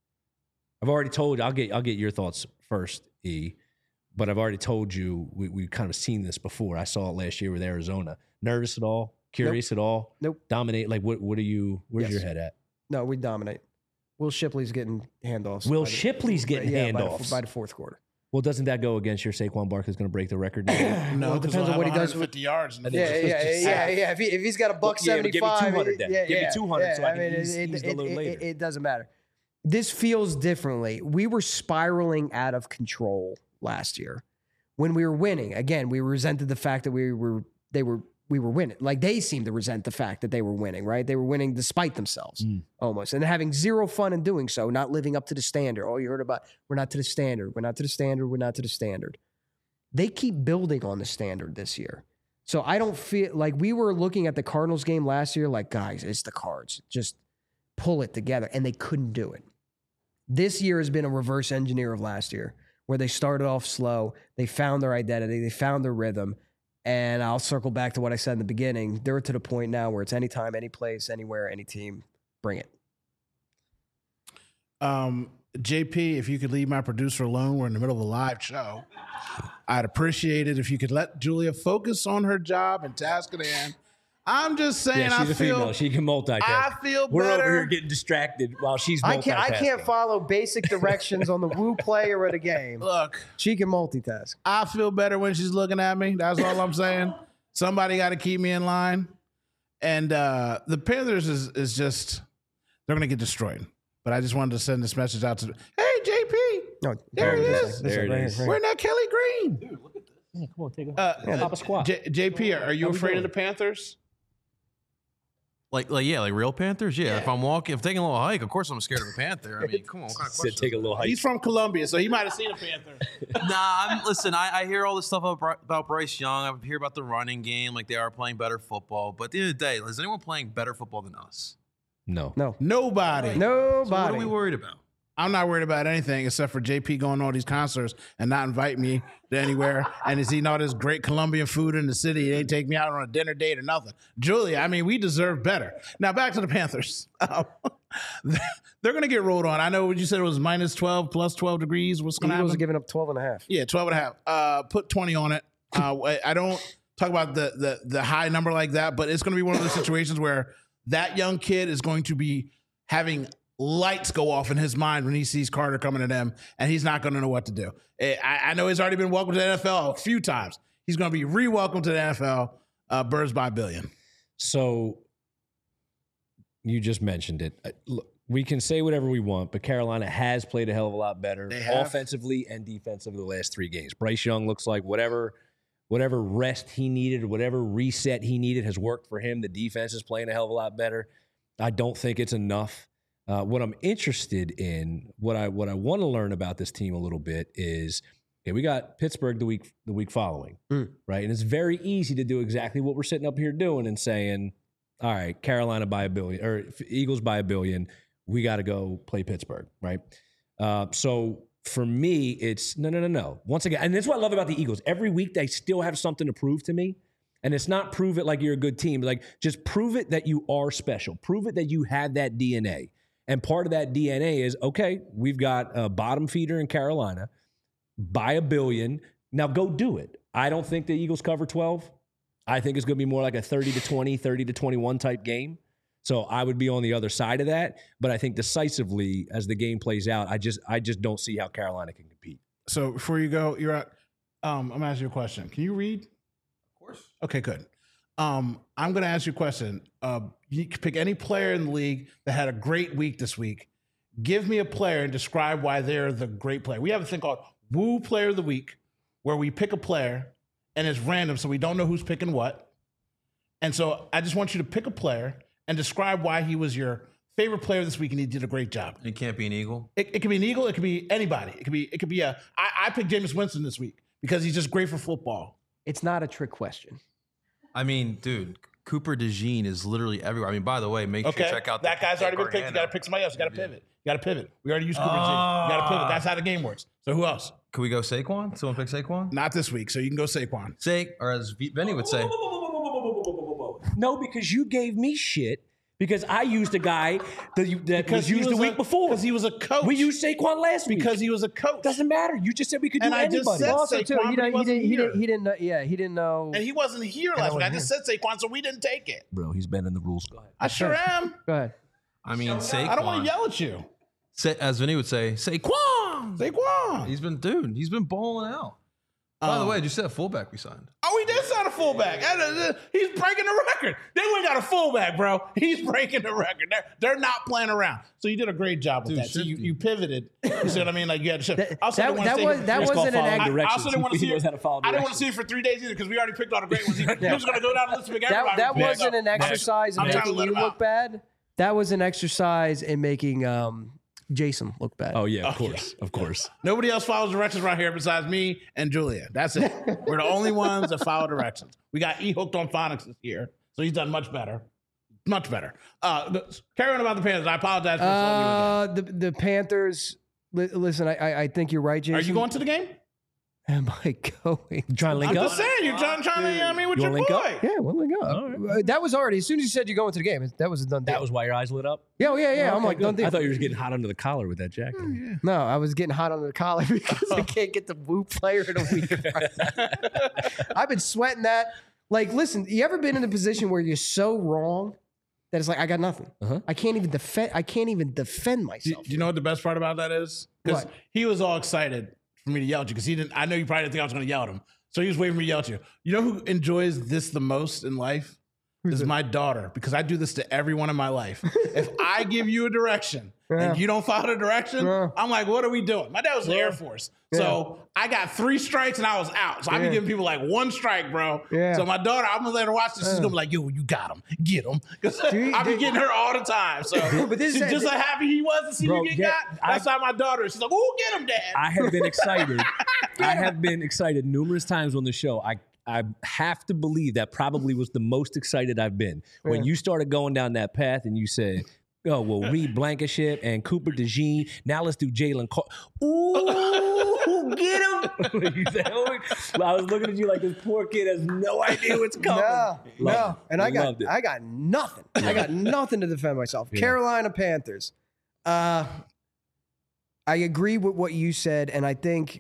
I've already told you. I'll get I'll get your thoughts first, E. But I've already told you we we kind of seen this before. I saw it last year with Arizona. Nervous at all? Curious at all? Nope. Dominate? Like what? What are you? Where's Yes. your head at? No, we dominate. Will Shipley's getting handoffs. Will by the- Shipley's getting yeah, by the- handoffs. by the fourth quarter. Well, doesn't that go against your Saquon Barkley's going to break the record? No, Well, it 'cause depends he'll on what he have does with- one hundred fifty yards. In the I think Yeah, first- it's yeah, just yeah, half. yeah. If, he, if he's got a buck Well, yeah, but give me seventy-five, two hundred then. yeah, Give me yeah, two hundred yeah, so I can mean, ease- it, ease it, the load it, later. it, it doesn't matter. This feels differently. We were spiraling out of control last year when we were winning. Again, we resented the fact that we were they were we were winning. Like they seemed to resent the fact that they were winning. Right? They were winning despite themselves Mm. almost, and having zero fun in doing so. Not living up to the standard. Oh, you heard about we're not to the standard. We're not to the standard. We're not to the standard. They keep building on the standard this year. So I don't feel like we were looking at the Cardinals game last year, like, guys, it's the Cards. Just pull it together. And they couldn't do it. This year has been a reverse engineer of last year, where they started off slow. They found their identity. They found their rhythm. And I'll circle back to what I said in the beginning. They're to the point now where it's anytime, any place, anywhere, any team. Bring it. Um, J P, if you could leave my producer alone, we're in the middle of a live show. I'd appreciate it if you could let Julia focus on her job and task at hand. I'm just saying, Yeah, she's I a feel, female. She can multitask. I feel We're better. over here getting distracted while she's multitasking. I can't, I can't follow basic directions on the Woo player of the game. Look, She can multitask. I feel better when she's looking at me. That's all I'm saying. Somebody got to keep me in line. And uh, the Panthers is is just, they're going to get destroyed. But I just wanted to send this message out to, hey, J P, No, There it this is. this There it right here, is. right where that Kelly Green? Yeah, come on, take a Uh, pop a squat. J- JP, are you How we afraid of doing? the Panthers? Like, like, yeah, like real Panthers. Yeah, Yeah. if I'm walking, if taking a little hike, of course I'm scared of a panther. I mean, come on, what kind of Said question? take a little hike. He's from Columbia, so he might have seen a panther. Nah, I'm, listen, I, I hear all this stuff about, about Bryce Young. I hear about the running game, like they are playing better football. But at the end of the day, is anyone playing better football than us? No. No. Nobody. Nobody. So what are we worried about? I'm not worried about anything except for J P going to all these concerts and not invite me to anywhere. And he's eating all this great Colombian food in the city. He ain't take me out on a dinner date or nothing. Julia, I mean, we deserve better. Now back to the Panthers. Um, they're going to get rolled on. I know what you said it was minus twelve, plus twelve degrees. What's going to Eagles are happen? giving up twelve and a half. Yeah, twelve and a half. Uh, put twenty on it. Uh, I- I don't talk about the, the the high number like that, but it's going to be one of those situations where that young kid is going to be having lights go off in his mind when he sees Carter coming at him, and he's not going to know what to do. I, I know he's already been welcomed to the N F L a few times. He's going to be re-welcomed to the N F L. Uh, Birds by a billion. So you just mentioned it. Uh, Look, we can say whatever we want, but Carolina has played a hell of a lot better They have. offensively and defensively the last three games. Bryce Young looks like whatever whatever rest he needed, whatever reset he needed has worked for him. The defense is playing a hell of a lot better. I don't think it's enough. Uh, what I'm interested in, what I what I want to learn about this team a little bit is, okay, we got Pittsburgh the week the week following, Mm. right? And it's very easy to do exactly what we're sitting up here doing and saying, all right, Carolina by a billion or Eagles by a billion. We got to go play Pittsburgh, right? Uh, so for me, it's no, no, no, no. Once again, and that's what I love about the Eagles. Every week they still have something to prove to me. And it's not prove it like you're a good team. Like just prove it that you are special. Prove it that you have that D N A. And part of that D N A is, okay, we've got a bottom feeder in Carolina by a billion. Now go do it. I don't think the Eagles cover twelve. I think it's going to be more like a thirty to twenty, thirty to twenty-one type game. So I would be on the other side of that. But I think decisively, as the game plays out, I just I just don't see how Carolina can compete. So before you go, you're at, um, I'm gonna ask you a question. Can you read? Of course. Okay, good. Um, I'm gonna ask you a question. Uh, you can pick any player in the league that had a great week this week. Give me a player and describe why they're the great player. We have a thing called Woo Player of the Week, where we pick a player and it's random, so we don't know who's picking what. And so I just want you to pick a player and describe why he was your favorite player this week and he did a great job. It can't be an Eagle. It, it could be an Eagle. It could be anybody. It could be. It could be a. I, I picked Jameis Winston this week because he's just great for football. It's not a trick question. I mean, dude, Cooper DeJean is literally everywhere. I mean, by the way, make Okay, sure you check out that the, guy's already been Gargano. picked. You got to pick somebody else. You got to Yeah. pivot. You got to pivot. We already used Cooper DeJean. You got to pivot. That's how the game works. So who else? Can we go Saquon? Someone pick Saquon? Not this week. So you can go Saquon. Sa- or as V- Benny would say, No, because you gave me shit because I used a guy that, you, that was he used the was week a- before. Because he was a coach. We used Saquon last week. because he was a coach. Doesn't matter. You just said we could do And I just anybody. said Also, Saquon, too, but he, he didn't, he, wasn't didn't, he, here. didn't, he didn't know. Yeah, he didn't know. and he wasn't here I last week. I wasn't just said Saquon, so we didn't take it. Bro, he's bending the rules. Go ahead. I sure am. Go ahead. I mean, Saquon. I don't want to yell at you. Sa- as Vinny would say, Saquon. Saquon. He's been, dude, he's been balling out. By the Um, way, did you see that fullback we signed? Oh, he did sign a fullback. And, uh, He's breaking the record. They went got a fullback, bro. He's breaking the record. They're, they're not playing around. So you did a great job with Dude, that. So you, shifty. you pivoted. You see what I mean? Like you had to shift. That- I also that- didn't wanna that say- was- that It's called wasn't an following act- I directions. also didn't want to He see knows it. how to follow I didn't want to directions. see it for three days either because we already picked all the great ones. He, he was going to go down the list and pick That, everybody. that Yeah, wasn't no. an exercise in I'm trying to making let you him look out. bad. That was an exercise in making um, Jason look bad. Oh, yeah, of course. Of course. Nobody else follows directions right here besides me and Julia. That's it. We're the only ones that follow directions. We got E hooked on phonics this year, so he's done much better. Much better. Uh, the, carry on about the Panthers. I apologize for slowing you again. Uh, the the Panthers. Li- listen, I, I I think you're right, Jason. Are you going to the game? Am I going? You trying to link I'm up? just saying, you're trying, trying to, you know what I mean, with You your wanna boy. link up? Yeah, well, let go. All right. Uh, That was already as soon as you said you're going to the game. That was a done deal. That was why your eyes lit up? yeah, oh, yeah, yeah. I'm Okay, like, good. done deal. I thought you were getting hot under the collar with that jacket. No, I was getting hot under the collar because I can't get the Woo Player of the Week. Right. I've been sweating that. Like, listen, you ever been in a position where you're so wrong that it's like I got nothing. Uh-huh. I can't even defend. I can't even defend Do, myself. do you know what the best part about that is? Because What? he was all excited for me to yell at you because he didn't. I know you probably didn't think I was going to yell at him, so he was waiting for me to yell at you. You know who enjoys this the most in life? Is my daughter, because I do this to everyone in my life. If I give you a direction Yeah. and you don't follow the direction, Yeah. I'm like, what are we doing? My dad was in the Yeah. Air Force. So I got three strikes and I was out. So I be Yeah. giving people like one strike, bro. Yeah. So my daughter, I'm gonna let her watch this. She's gonna be like, yo, you got him. Get him. Because Dude, I be dude. getting her all the time. So But this she's is- just so happy he was to see Bro, you get yeah, got. That's how my daughter is. She's like, oh, get him, dad. I have been excited. I have been excited numerous times on the show. I I have to believe that probably was the most excited I've been when you started going down that path and you said, "Oh, well, Reed Blankenship and Cooper DeJean. Now let's do Jalen Carter." Ooh, get him! You said, oh, I was looking at you like this poor kid has no idea what's coming. No, no, Loved it. and I got Loved it. I got nothing. I got nothing to defend myself. Carolina Panthers. Uh, I agree with what you said, and I think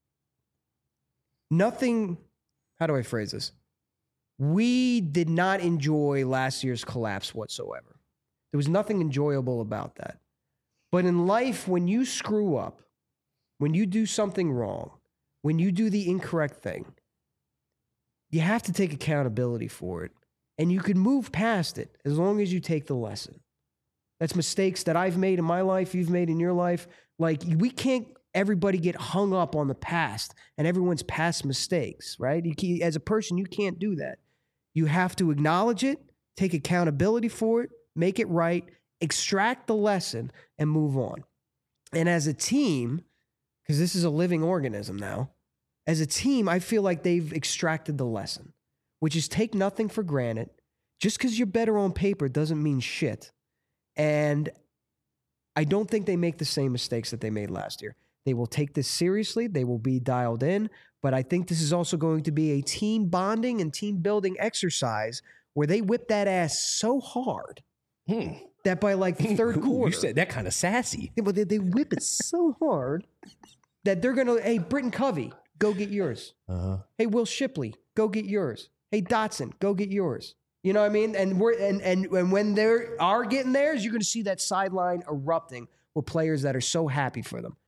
nothing. How do I phrase this? We did not enjoy last year's collapse whatsoever. There was nothing enjoyable about that. But in life, when you screw up, when you do something wrong, when you do the incorrect thing, you have to take accountability for it. And you can move past it as long as you take the lesson. That's mistakes that I've made in my life, you've made in your life. Like, we can't everybody get hung up on the past and everyone's past mistakes, right? You can, as a person, you can't do that. You have to acknowledge it, take accountability for it, make it right, extract the lesson, and move on. And as a team, because this is a living organism now, as a team, I feel like they've extracted the lesson, which is take nothing for granted. Just because you're better on paper doesn't mean shit. And I don't think they make the same mistakes that they made last year. They will take this seriously. They will be dialed in. But I think this is also going to be a team bonding and team building exercise where they whip that ass so hard Hmm. that by like the third Ooh, quarter, you said that kind of sassy. yeah, but they, they whip it so hard that they're going to, hey, Britton Covey, go get yours. Uh-huh. Hey, Will Shipley, go get yours. hey, Dotson, go get yours. You know what I mean? And we're and and, and when they are getting theirs, you're going to see that sideline erupting with players that are so happy for them.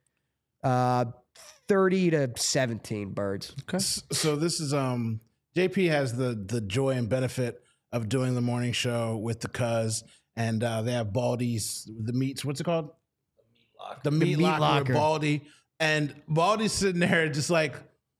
Uh, thirty to seventeen birds. Okay. So this is um J P has the the joy and benefit of doing the morning show with the Cuz, and uh, they have Baldy's the meats. What's it called? The meat, The meat locker, locker. with Baldy, and Baldy's sitting there just like,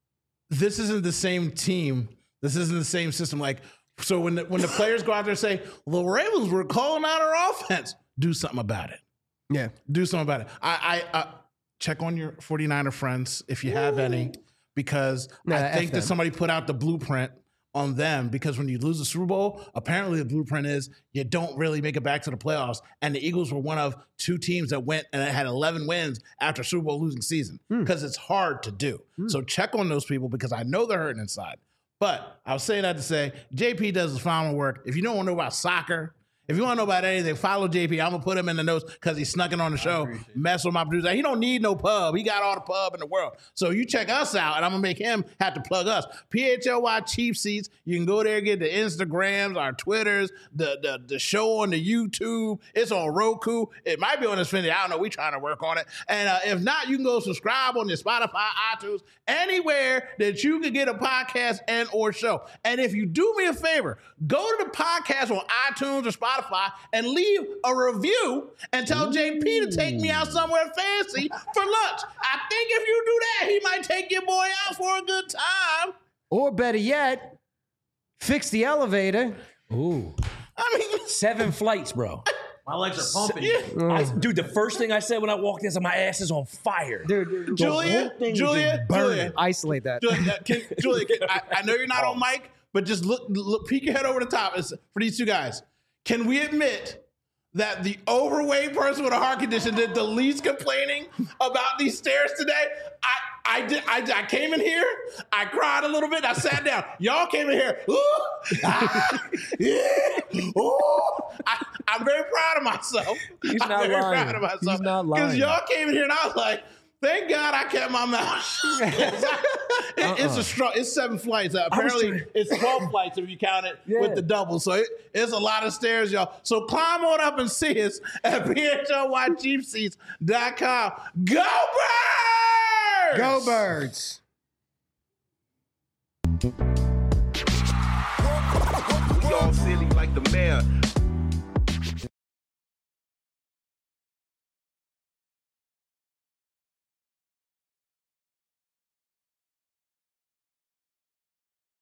this isn't the same team. This isn't the same system. Like, so when the, when the players go out there and say, the Ravens were calling out our offense, do something about it. Yeah. Do something about it. I, I uh, check on your 49er friends if you have any, because Nah, I F think that them. somebody put out the blueprint on them, because when you lose the Super Bowl, apparently the blueprint is you don't really make it back to the playoffs. And the Eagles were one of two teams that went and had eleven wins after Super Bowl losing season, because it's hard to do. So check on those people, because I know they're hurting inside. But I was saying that to say, J P does his final work. If you don't want to know about soccer, if you want to know about anything, follow J P. I'm going to put him in the notes because he's snuck in on the show, mess with my producer. He don't need no pub. He got all the pub in the world. So you check us out, and I'm going to make him have to plug us. P H L Y Cheap Seats. You can go there and get the Instagrams, our Twitters, the, the, the show on the YouTube. It's on Roku. It might be on Xfinity. I don't know. We're trying to work on it. And uh, if not, you can go subscribe on your Spotify, iTunes, anywhere that you can get a podcast and or show. And if you do me a favor, go to the podcast on iTunes or Spotify and leave a review and tell J P to take me out somewhere fancy for lunch. I think if you do that, he might take your boy out for a good time. Or better yet, fix the elevator. Ooh. I mean, Seven flights, bro. My legs are pumping. I, dude, the first thing I said when I walked in is my ass is on fire. Dude, dude, dude, Julia, Julia, Julia, isolate that. Julia, can, Julia can, I, I know you're not on mic, but just look, look, peek your head over the top. It's for these two guys. Can we admit that the overweight person with a heart condition did the least complaining about these stairs today? I I did. I, I came in here. I cried a little bit. I sat down. Y'all came in here. Ooh, ah, yeah, ooh. I, I'm very proud of myself. He's I'm not very lying. proud of myself. He's not Because lying. y'all came in here and I was like, thank God I kept my mouth shut. It- It's a strong. It's seven flights. Uh, apparently, trying- it's twelve flights if you count it Yeah. with the double. So it, it's a lot of stairs, y'all. So climb on up and see us at P H L Y cheap seats dot com. Go Birds! Go Birds.